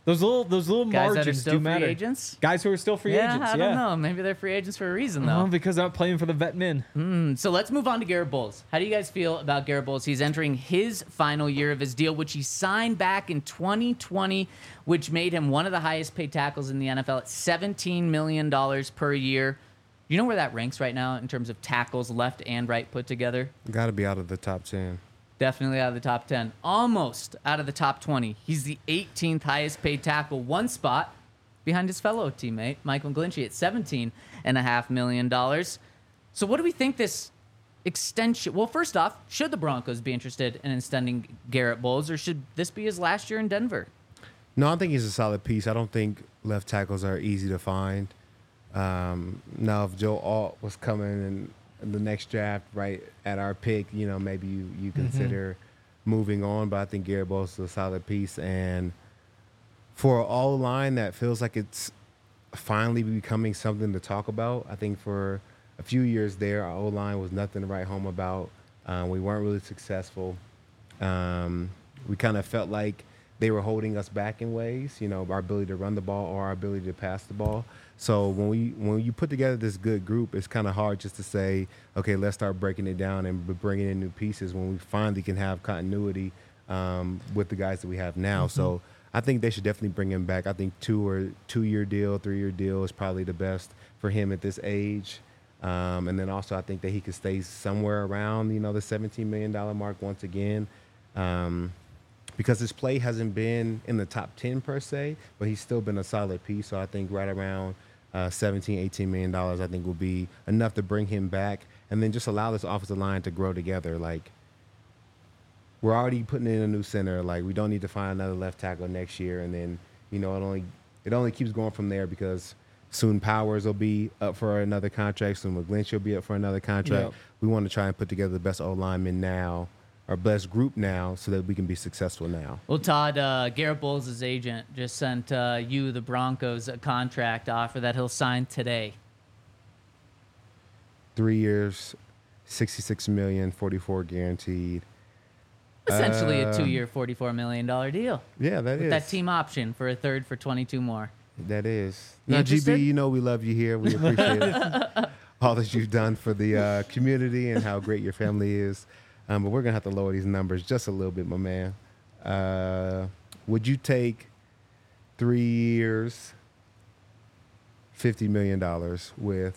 Those little Guys that are margins still do free matter. agents? Guys who are still free Yeah, agents. I don't know. Maybe they're free agents for a reason, though. Because I'm playing for the vet min. So let's move on to Garrett Bowles. How do you guys feel about Garrett Bowles? He's entering his final year of his deal, which he signed back in 2020, which made him one of the highest paid tackles in the NFL at $17 million per year. You know where that ranks right now in terms of tackles left and right put together? Got to be out of the top 10. Definitely out of the top 10. Almost out of the top 20. He's the 18th highest paid tackle, one spot behind his fellow teammate, Mike McGlinchey, at $17.5 million. So what do we think this extension... Well, first off, should the Broncos be interested in extending Garrett Bowles, or should this be his last year in Denver? No, I think he's a solid piece. I don't think left tackles are easy to find. Now, if Joe Alt was coming in the next draft, right at our pick, maybe you consider moving on. But I think Garrett Bowles is a solid piece, and for an all line that feels like it's finally becoming something to talk about. I think for a few years there, our O line was nothing to write home about. We weren't really successful. We kind of felt like they were holding us back in ways, our ability to run the ball or our ability to pass the ball. So when you put together this good group, it's kind of hard just to say, okay, let's start breaking it down and bringing in new pieces when we finally can have continuity with the guys that we have now. So I think they should definitely bring him back. I think 2-year deal, 3-year deal is probably the best for him at this age. And then also I think that he could stay somewhere around, the $17 million mark once again. Because his play hasn't been in the top 10 per se, but he's still been a solid piece. So I think right around $17-18 million, I think will be enough to bring him back and then just allow this offensive line to grow together. Like, we're already putting in a new center. Like, we don't need to find another left tackle next year. And then, it only keeps going from there because soon Powers will be up for another contract. Soon McGlinchey will be up for another contract. Yep. We want to try and put together the best O-lineman now, our best group now, so that we can be successful now. Well, Todd, Garrett Bowles' agent just sent you, the Broncos, a contract offer that he'll sign today. 3 years, $66 million, 44 guaranteed. Essentially a 2-year, $44 million deal. Yeah, that With is. that team option for a third for 22 more. That is. You Now, interested? GB, we love you here. We appreciate it. All that you've done for the community and how great your family is. But we're going to have to lower these numbers just a little bit, my man. Would you take 3 years, $50 million with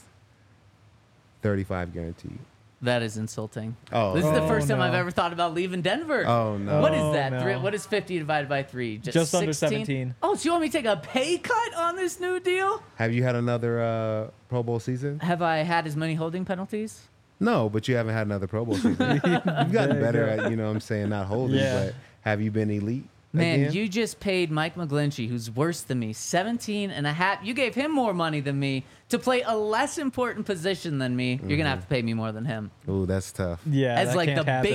35 guaranteed? That is insulting. Oh. This is the first time no. I've ever thought about leaving Denver. Oh, no. What is Oh, that? no. What is 50 divided by 3? Just under 16? 17. Oh, so you want me to take a pay cut on this new deal? Have you had another Pro Bowl season? Have I had as many holding penalties? No, but you haven't had another Pro Bowl season. You've gotten better at, not holding, Yeah. but have you been elite? Man, again? you just paid Mike McGlinchey, who's worse than me, 17.5. You gave him more money than me to play a less important position than me. You're gonna have to pay me more than him. Ooh, that's tough. Yeah, As that like the can't happen.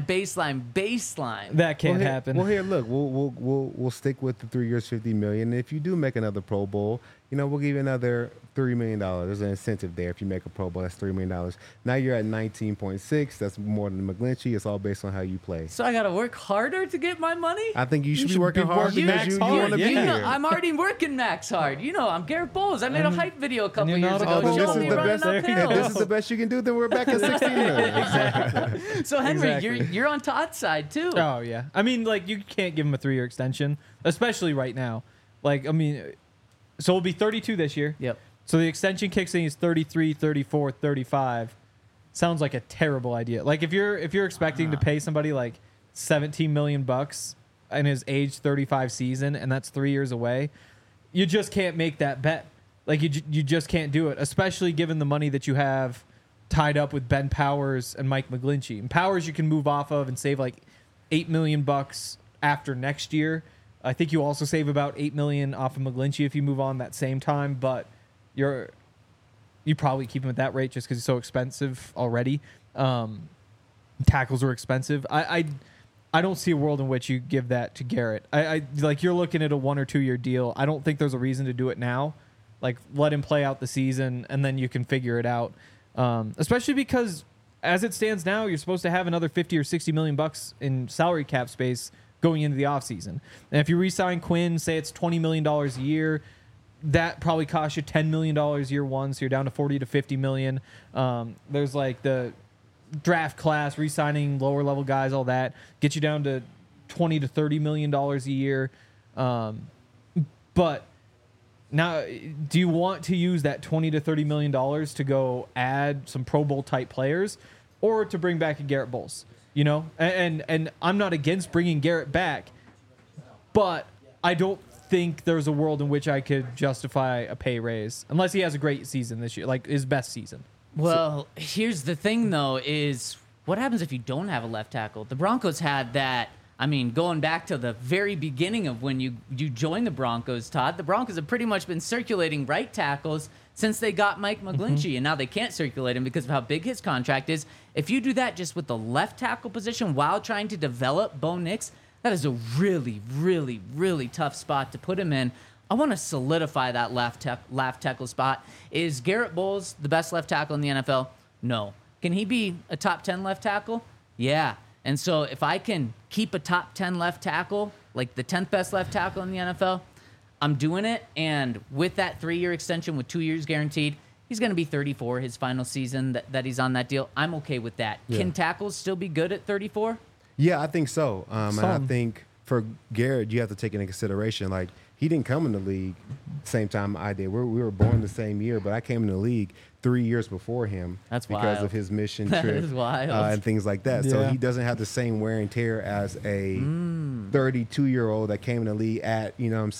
baseline. That can't well, happen. Well, here, look, we'll stick with the 3 years, $50 million. If you do make another Pro Bowl, we'll give you another $3 million. There's an incentive there. If you make a Pro Bowl, that's $3 million. Now you're at 19.6. That's more than McGlinchey. It's all based on how you play. So I gotta work harder to get my money. I think you should be should working be hard working because max you hard, want to be You know, here. I'm already working max hard. I'm Garrett Bowles. I made a hype video a couple you're years not ago. a coach. this Showing is me the running best. uphill. If this is the best you can do, then we're back at 16 million. So Henry, Exactly. you're on Todd's side too. Oh yeah. I mean, like, you can't give him a 3-year extension, especially right now. Like, I mean, so it'll be 32 this year. Yep. So the extension kicks in, he's 33, 34, 35. Sounds like a terrible idea. Like, if you're expecting to pay somebody like $17 million in his age 35 season, and that's 3 years away, you just can't make that bet. Like, you just can't do it, especially given the money that you have tied up with Ben Powers and Mike McGlinchey. And Powers you can move off of and save like $8 million after next year. I think you also save about $8 million off of McGlinchey if you move on that same time, but you probably keep him at that rate just because he's so expensive already. Tackles are expensive. I don't see a world in which you give that to Garrett. I like, you're looking at a 1 or 2 year deal. I don't think there's a reason to do it now. Like, let him play out the season and then you can figure it out. Especially because as it stands now, you're supposed to have another 50 or 60 million bucks in salary cap space going into the offseason. And if you re-sign Quinn, say it's $20 million a year, that probably costs you $10 million year one, so you're down to 40 to 50 million. There's like the draft class, re-signing lower level guys, all that get you down to 20 to 30 million dollars a year. But now, do you want to use that 20 to 30 million dollars to go add some Pro Bowl type players, or to bring back a Garrett Bowles? You know, and I'm not against bringing Garrett back, but I don't think there's a world in which I could justify a pay raise unless he has a great season this year, like his best season. Well, here's the thing, though, is what happens if you don't have a left tackle? The Broncos had that. I mean, going back to the very beginning of when you joined the Broncos, Todd, the Broncos have pretty much been circulating right tackles since they got Mike McGlinchey, and now they can't circulate him because of how big his contract is. If you do that just with the left tackle position while trying to develop Bo Nix, that is a really, really, really tough spot to put him in. I want to solidify that left tackle spot. Is Garrett Bowles the best left tackle in the NFL? No. Can he be a top 10 left tackle? Yeah. And so if I can keep a top 10 left tackle, like the 10th best left tackle in the NFL, I'm doing it. And with that 3-year extension with 2 years guaranteed, he's going to be 34 his final season that he's on that deal. I'm okay with that. Yeah. Can tackles still be good at 34? Yeah, I think so. And I think for Garrett, you have to take into consideration, like, he didn't come in the league same time I did. We were born the same year, but I came in the league 3 years before him. That's because wild. of his mission That trip is wild. and things like that. So Yeah. he doesn't have the same wear and tear as a 32-year-old that came in the league at,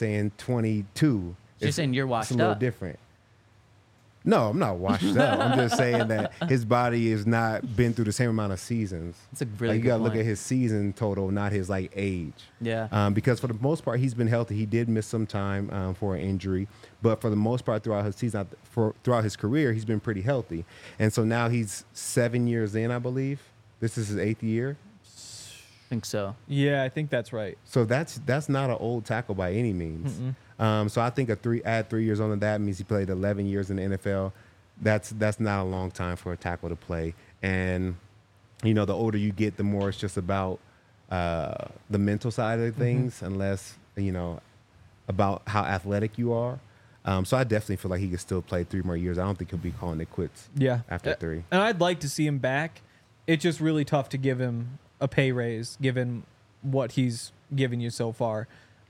22. You're saying you're washed It's a little up. different. No, I'm not washed up. I'm just saying that his body has not been through the same amount of seasons. That's a really you good gotta look point. at his season total, not his age. Yeah. Because for the most part, he's been healthy. He did miss some time for an injury, but for the most part, throughout his season, throughout his career, he's been pretty healthy. And so now he's 7 years in, I believe. This is his 8th year. I think so. Yeah, I think that's right. So that's not an old tackle by any means. So I think add 3 years on to that means he played 11 years in the NFL. That's not a long time for a tackle to play. And the older you get, the more it's just about the mental side of things, unless about how athletic you are. So I definitely feel like he could still play 3 more years. I don't think he'll be calling it quits. Yeah. After 3. And I'd like to see him back. It's just really tough to give him a pay raise given what he's given you so far.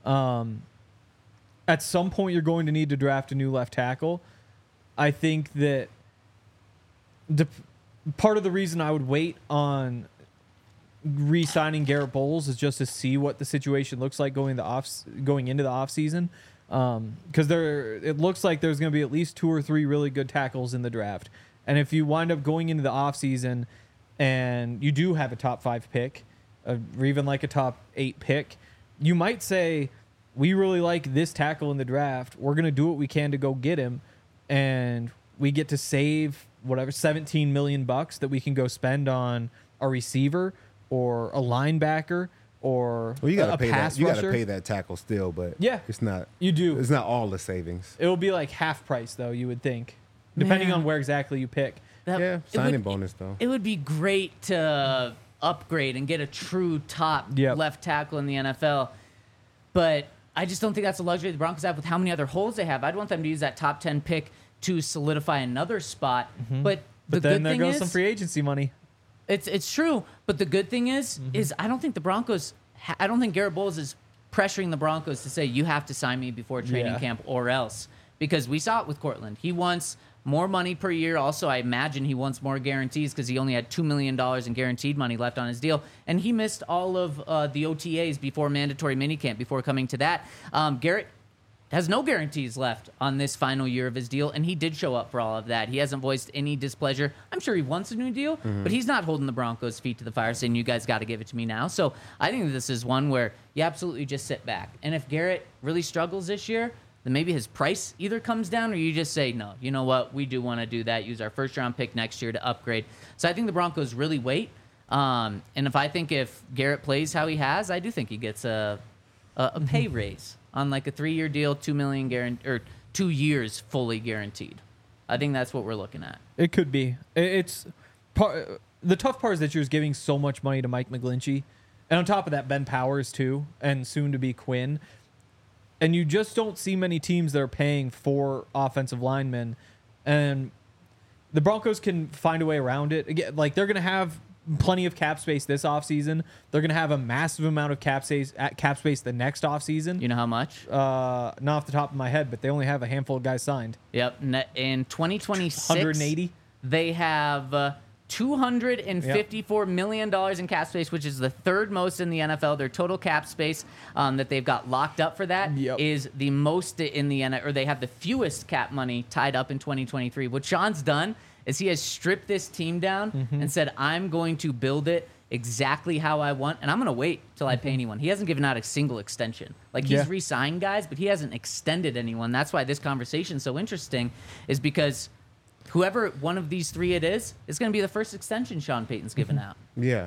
At some point, you're going to need to draft a new left tackle. I think that part of the reason I would wait on re-signing Garrett Bowles is just to see what the situation looks like going into the offseason. Because it looks like there's going to be at least 2 or 3 really good tackles in the draft. And if you wind up going into the offseason and you do have a top 5 pick, or even like a top 8 pick, you might say, we really like this tackle in the draft. We're going to do what we can to go get him. And we get to save whatever, $17 million that we can go spend on a receiver or a linebacker or Well, you got a to pay pass that. You got to rusher. pay that tackle still, but Yeah. it's not. You do. It's not all the savings. It will be like half price, though, you would think, depending Man. on where exactly you pick. That- Yeah, it signing would- bonus though. It would be great to upgrade and get a true top Yep. left tackle in the NFL, but I just don't think that's a luxury the Broncos have with how many other holes they have. I'd want them to use that top 10 pick to solidify another spot. But the But then good there thing goes is, some free agency money. it's true. But the good thing is I don't think the Broncos. I don't think Garrett Bowles is pressuring the Broncos to say you have to sign me before training Yeah. camp or else, because we saw it with Cortland. He wants more money per year. Also, I imagine he wants more guarantees because he only had $2 million in guaranteed money left on his deal, and he missed all of the OTAs before mandatory minicamp before coming to that. Garrett has no guarantees left on this final year of his deal, and he did show up for all of that. He hasn't voiced any displeasure. I'm sure he wants a new deal, but he's not holding the Broncos' feet to the fire saying, you guys got to give it to me now. So I think this is one where you absolutely just sit back. And if Garrett really struggles this year, then maybe his price either comes down or you just say, no, you know what? We do want to do that. Use our first-round pick next year to upgrade. So I think the Broncos really wait. And if Garrett plays how he has, I do think he gets a pay raise on like a 3-year deal, $2 million guaranteed, or 2 years fully guaranteed. I think that's what we're looking at. It could be. The tough part is that you're just giving so much money to Mike McGlinchey, And on top of that, Ben Powers too, and soon to be Quinn. And you just don't see many teams that are paying for offensive linemen. And the Broncos can find a way around it. Again, like they're going to have plenty of cap space this offseason. They're going to have a massive amount of cap space the next offseason. You know how much? Not off the top of my head, but they only have a handful of guys signed. Yep. In 2026, 180. they have $254 million in cap space, which is the third most in the NFL. Their total cap space that they've got locked up for that is the most in the NFL, or they have the fewest cap money tied up in 2023. What Sean's done is he has stripped this team down and said, I'm going to build it exactly how I want, and I'm going to wait till I pay anyone. He hasn't given out a single extension. Like, he's re-signed guys, but he hasn't extended anyone. That's why this conversation is so interesting, is because whoever one of these three it is going to be the first extension Sean Payton's given out. Yeah.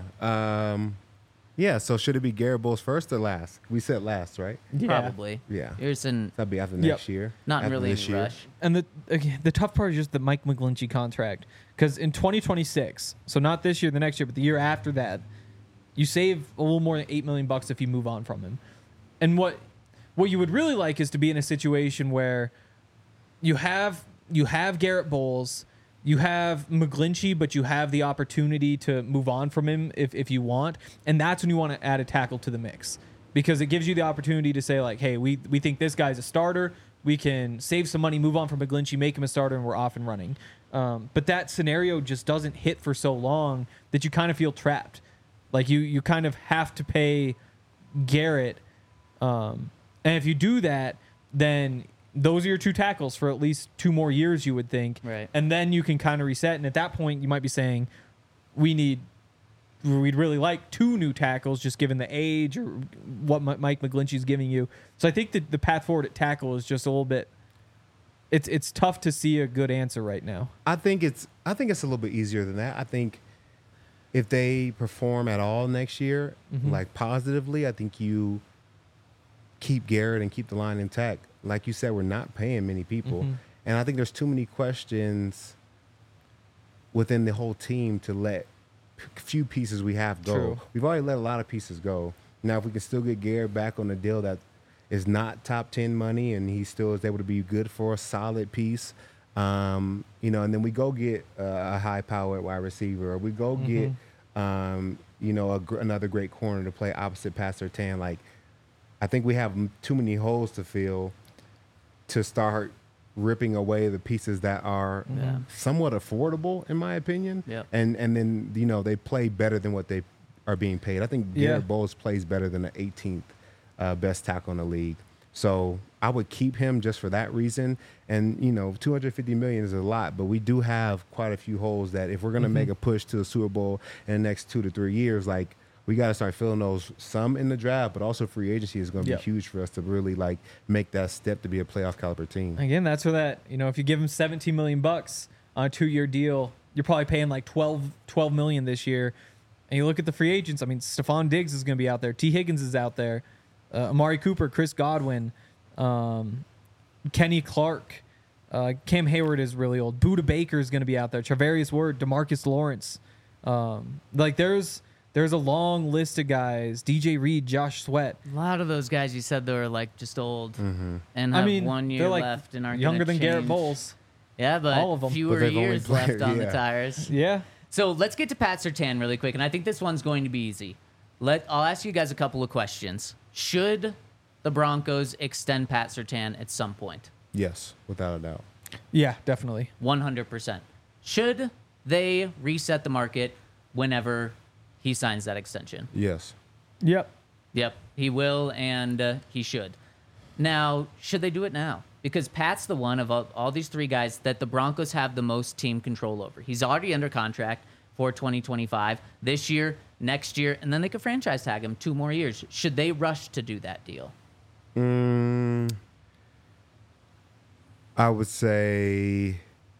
Yeah, so should it be Garrett Bowles first or last? We said last, right? Probably. Yeah. That'd be after next year. Not after really this in a rush. And the tough part is just the Mike McGlinchey contract. Because in 2026, so not this year, the next year, but the year after that, you save a little more than $8 million if you move on from him. And what you would really like is to be in a situation where you have Garrett Bowles, you have McGlinchey, but you have the opportunity to move on from him if you want. And that's when you want to add a tackle to the mix, because it gives you the opportunity to say, like, hey, we think this guy's a starter. We can save some money, move on from McGlinchey, make him a starter, and we're off and running. But that scenario just doesn't hit for so long that you kind of feel trapped. Like, you kind of have to pay Garrett. And if you do that, then those are your two tackles for at least 2 more years, you would think. Right. And then you can kind of reset. And at that point, you might be saying, we'd really like 2 new tackles, just given the age or what Mike McGlinchey's giving you. So I think that the path forward at tackle is just a little bit. It's tough to see a good answer right now. I think it's a little bit easier than that. I think if they perform at all next year, like positively, I think you keep Garrett and keep the line intact. Like you said, we're not paying many people. And I think there's too many questions within the whole team to let few pieces we have go. True. We've already let a lot of pieces go. Now, if we can still get Garrett back on a deal that is not top 10 money and he still is able to be good for a solid piece, and then we go get a high-powered wide receiver, or we go get, another great corner to play opposite Pat Surtain. Like, I think we have too many holes to fill to start ripping away the pieces that are somewhat affordable, in my opinion. Yep. And then, they play better than what they are being paid. I think Garrett Bowles plays better than the 18th best tackle in the league. So I would keep him just for that reason. And, $250 million is a lot, but we do have quite a few holes that if we're going to make a push to the Super Bowl in the next 2 to 3 years, like, we got to start filling those, some in the draft, but also free agency is going to be huge for us to really, like, make that step to be a playoff caliber team. Again, that's where that, if you give him $17 million on a 2-year deal, you're probably paying like $12 million this year. And you look at the free agents. I mean, Stephon Diggs is going to be out there. T. Higgins is out there. Amari Cooper, Chris Godwin, Kenny Clark, Cam Hayward is really old. Budda Baker is going to be out there. Charvarius Ward, DeMarcus Lawrence. There's a long list of guys. DJ Reed, Josh Sweat. A lot of those guys you said they were like just old and have I mean, 1 year they're like left and aren't younger gonna than change. Garrett Bowles. Yeah, but All of them. fewer But they've only years played- left on the yeah. tires. Yeah. So let's get to Pat Surtain really quick, and I think this one's going to be easy. I'll ask you guys a couple of questions. Should the Broncos extend Pat Surtain at some point? Yes, without a doubt. Yeah, definitely. 100%. Should they reset the market whenever he signs that extension? Yes. Yep. Yep, he will, and he should. Now, should they do it now? Because Pat's the one of all these 3 guys that the Broncos have the most team control over. He's already under contract for 2025, this year, next year, and then they could franchise tag him 2 more years. Should they rush to do that deal? I would say,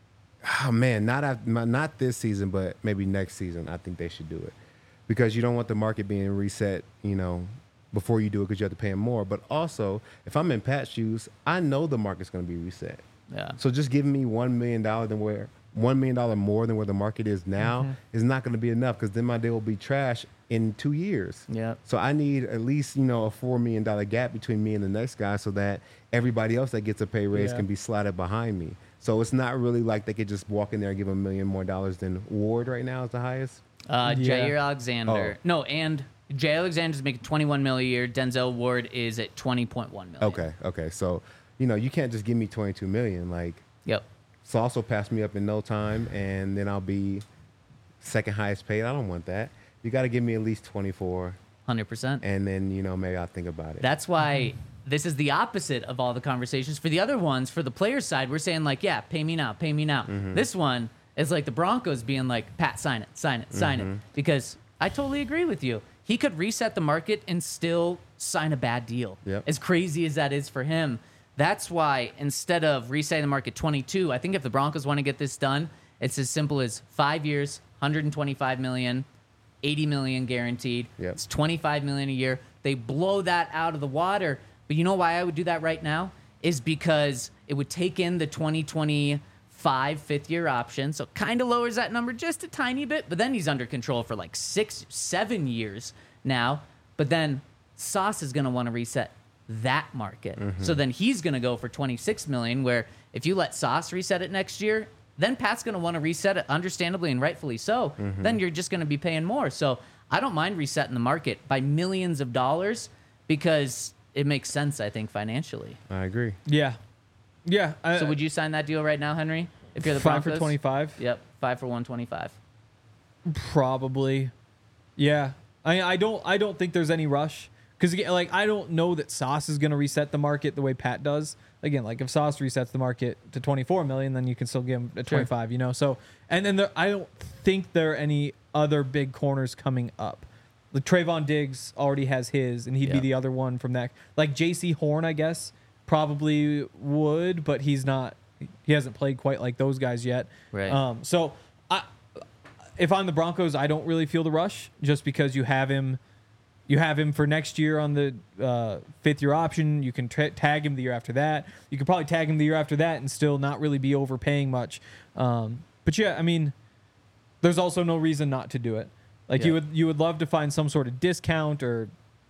not this season, but maybe next season. I think they should do it because you don't want the market being reset, before you do it because you have to pay him more. But also, if I'm in Pat's shoes, I know the market's going to be reset. Yeah. So just giving me $1 million than $1 million more than where the market is now Mm-hmm. is not going to be enough, because then my deal will be trash in 2 years. Yep. So I need at least, a $4 million gap between me and the next guy, so that everybody else that gets a pay raise Yeah. can be slotted behind me. So it's not really like they could just walk in there and give $1 million more than Ward right now is the highest. Jair Alexander. Oh. No, and Jair Alexander's making $21 million a year. Denzel Ward is at $20.1 million. Okay. So, you can't just give me $22 million. Like, Yep. Sauce will pass me up in no time, and then I'll be second highest paid. I don't want that. You got to give me at least 24, 100%. and then maybe I'll think about it. That's why this is the opposite of all the conversations. For the other ones, for the player side, we're saying like, yeah, pay me now, pay me now. This one is like the Broncos being like, Pat, sign it, sign it, sign it. Because I totally agree with you. He could reset the market and still sign a bad deal. Yep. As crazy as that is for him. That's why instead of resetting the market 22, I think if the Broncos want to get this done, it's as simple as 5 years, $125 million, $80 million guaranteed. Yep. It's $25 million a year. They blow that out of the water. But you know why I would do that right now? Is because it would take in the 2025 fifth-year option, so kind of lowers that number just a tiny bit. But then he's under control for like 6-7 years now. But then Sauce is going to want to reset that market. So then he's going to go for $26 million, where if you let Sauce reset it next year, then Pat's going to want to reset it, understandably and rightfully so. Then you're just going to be paying more. So I don't mind resetting the market by millions of dollars because it makes sense, I think, financially. I agree. Yeah. So would you sign that deal right now, Henry? If you're the 5 Broncos? for 25? Yep, 5 for 125. Probably. Yeah. I don't think there's any rush. Because, like, I don't know that Sauce is going to reset the market the way Pat does. Again, like, if Sauce resets the market to $24 million, then you can still give him a 25, So, and then I don't think there are any other big corners coming up. Like, Trayvon Diggs already has his, and he'd be Yeah. the other one from that. Like, J.C. Horn, I guess, probably would, but he hasn't played quite like those guys yet. Right. So, if I'm the Broncos, I don't really feel the rush just because you have him. You have him for next year on the fifth-year option. You can tag him the year after that. You could probably tag him the year after that and still not really be overpaying much. But yeah, I mean, there's also no reason not to do it. Like Yeah. you would love to find some sort of discount or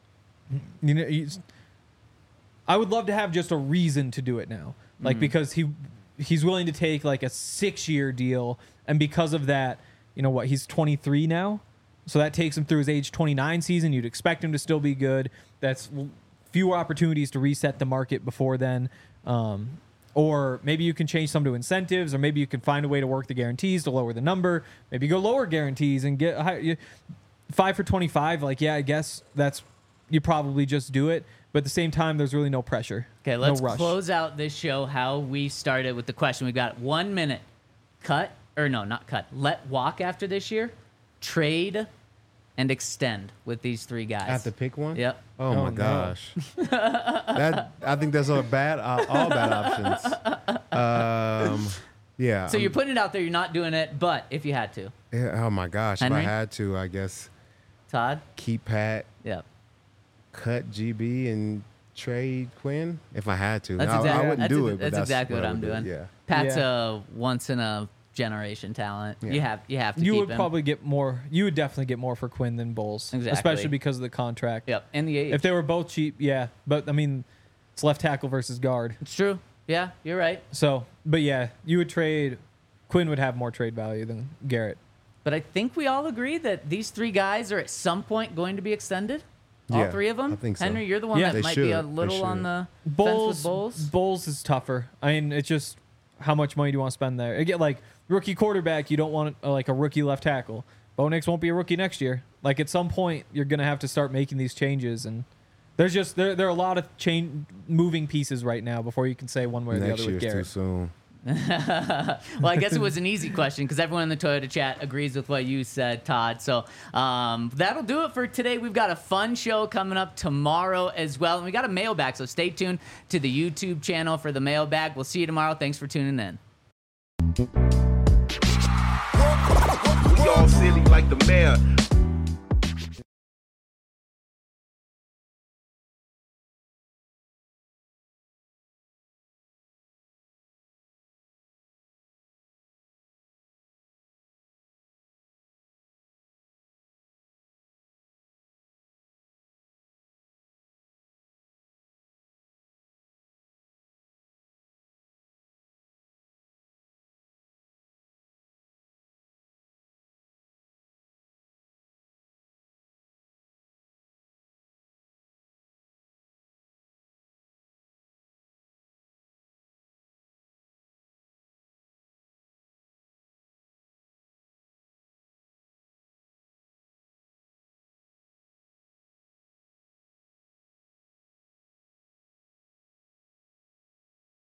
I would love to have just a reason to do it now. Like because he's willing to take like a 6-year deal, and because of that, he's 23 now. So that takes him through his age 29 season. You'd expect him to still be good. That's fewer opportunities to reset the market before then. Or maybe you can change some to incentives, or maybe you can find a way to work the guarantees to lower the number. Maybe go lower guarantees and get 5 for 25. Like, yeah, I guess you probably just do it. But at the same time, there's really no pressure. Okay, let's no rush. close out this show how we started with the question. We've got 1 minute. Let walk after this year. Trade and extend with these three guys. I have to pick one? Yep. Oh, Oh, my no. gosh. I think that's all bad options. Yeah. So you're putting it out there. You're not doing it, but if you had to. Yeah, oh my gosh. Henry? If I had to, I guess Todd? keep Pat, Yep. cut GB, and trade Quinn if I had to. That's I exactly, wouldn't that's do ex- it, but that's exactly what I I'm would do. doing. Yeah. Pat's Yeah. a once in a generation talent. Yeah. You have to You keep would him. probably get more. You would definitely get more for Quinn than Bowles, Exactly. especially because of the contract. Yep. And the age. If they were both cheap, yeah. But I mean, it's left tackle versus guard. It's true. Yeah, you're right. So, but yeah, you would trade. Quinn would have more trade value than Garrett. But I think we all agree that these three guys are at some point going to be extended. All Yeah, three of them. I think so. Henry, you're the one Yeah. that They might be a should. They little on should. the fence Bowles, with Bowles. Bowles is tougher. I mean, it's just how much money do you want to spend there? Again, like rookie quarterback, you don't want like a rookie left tackle. Bo Nix won't be a rookie next year. Like at some point, you're gonna have to start making these changes, and there's just there are a lot of moving pieces right now before you can say one way or the Next other with year's too Garrett. soon. Well, I guess it was an easy question because everyone in the Toyota chat agrees with what you said, Todd. So that'll do it for today. We've got a fun show coming up tomorrow as well. And we got a mailbag, so stay tuned to the YouTube channel for the mailbag. We'll see you tomorrow. Thanks for tuning in. We all silly like the mayor.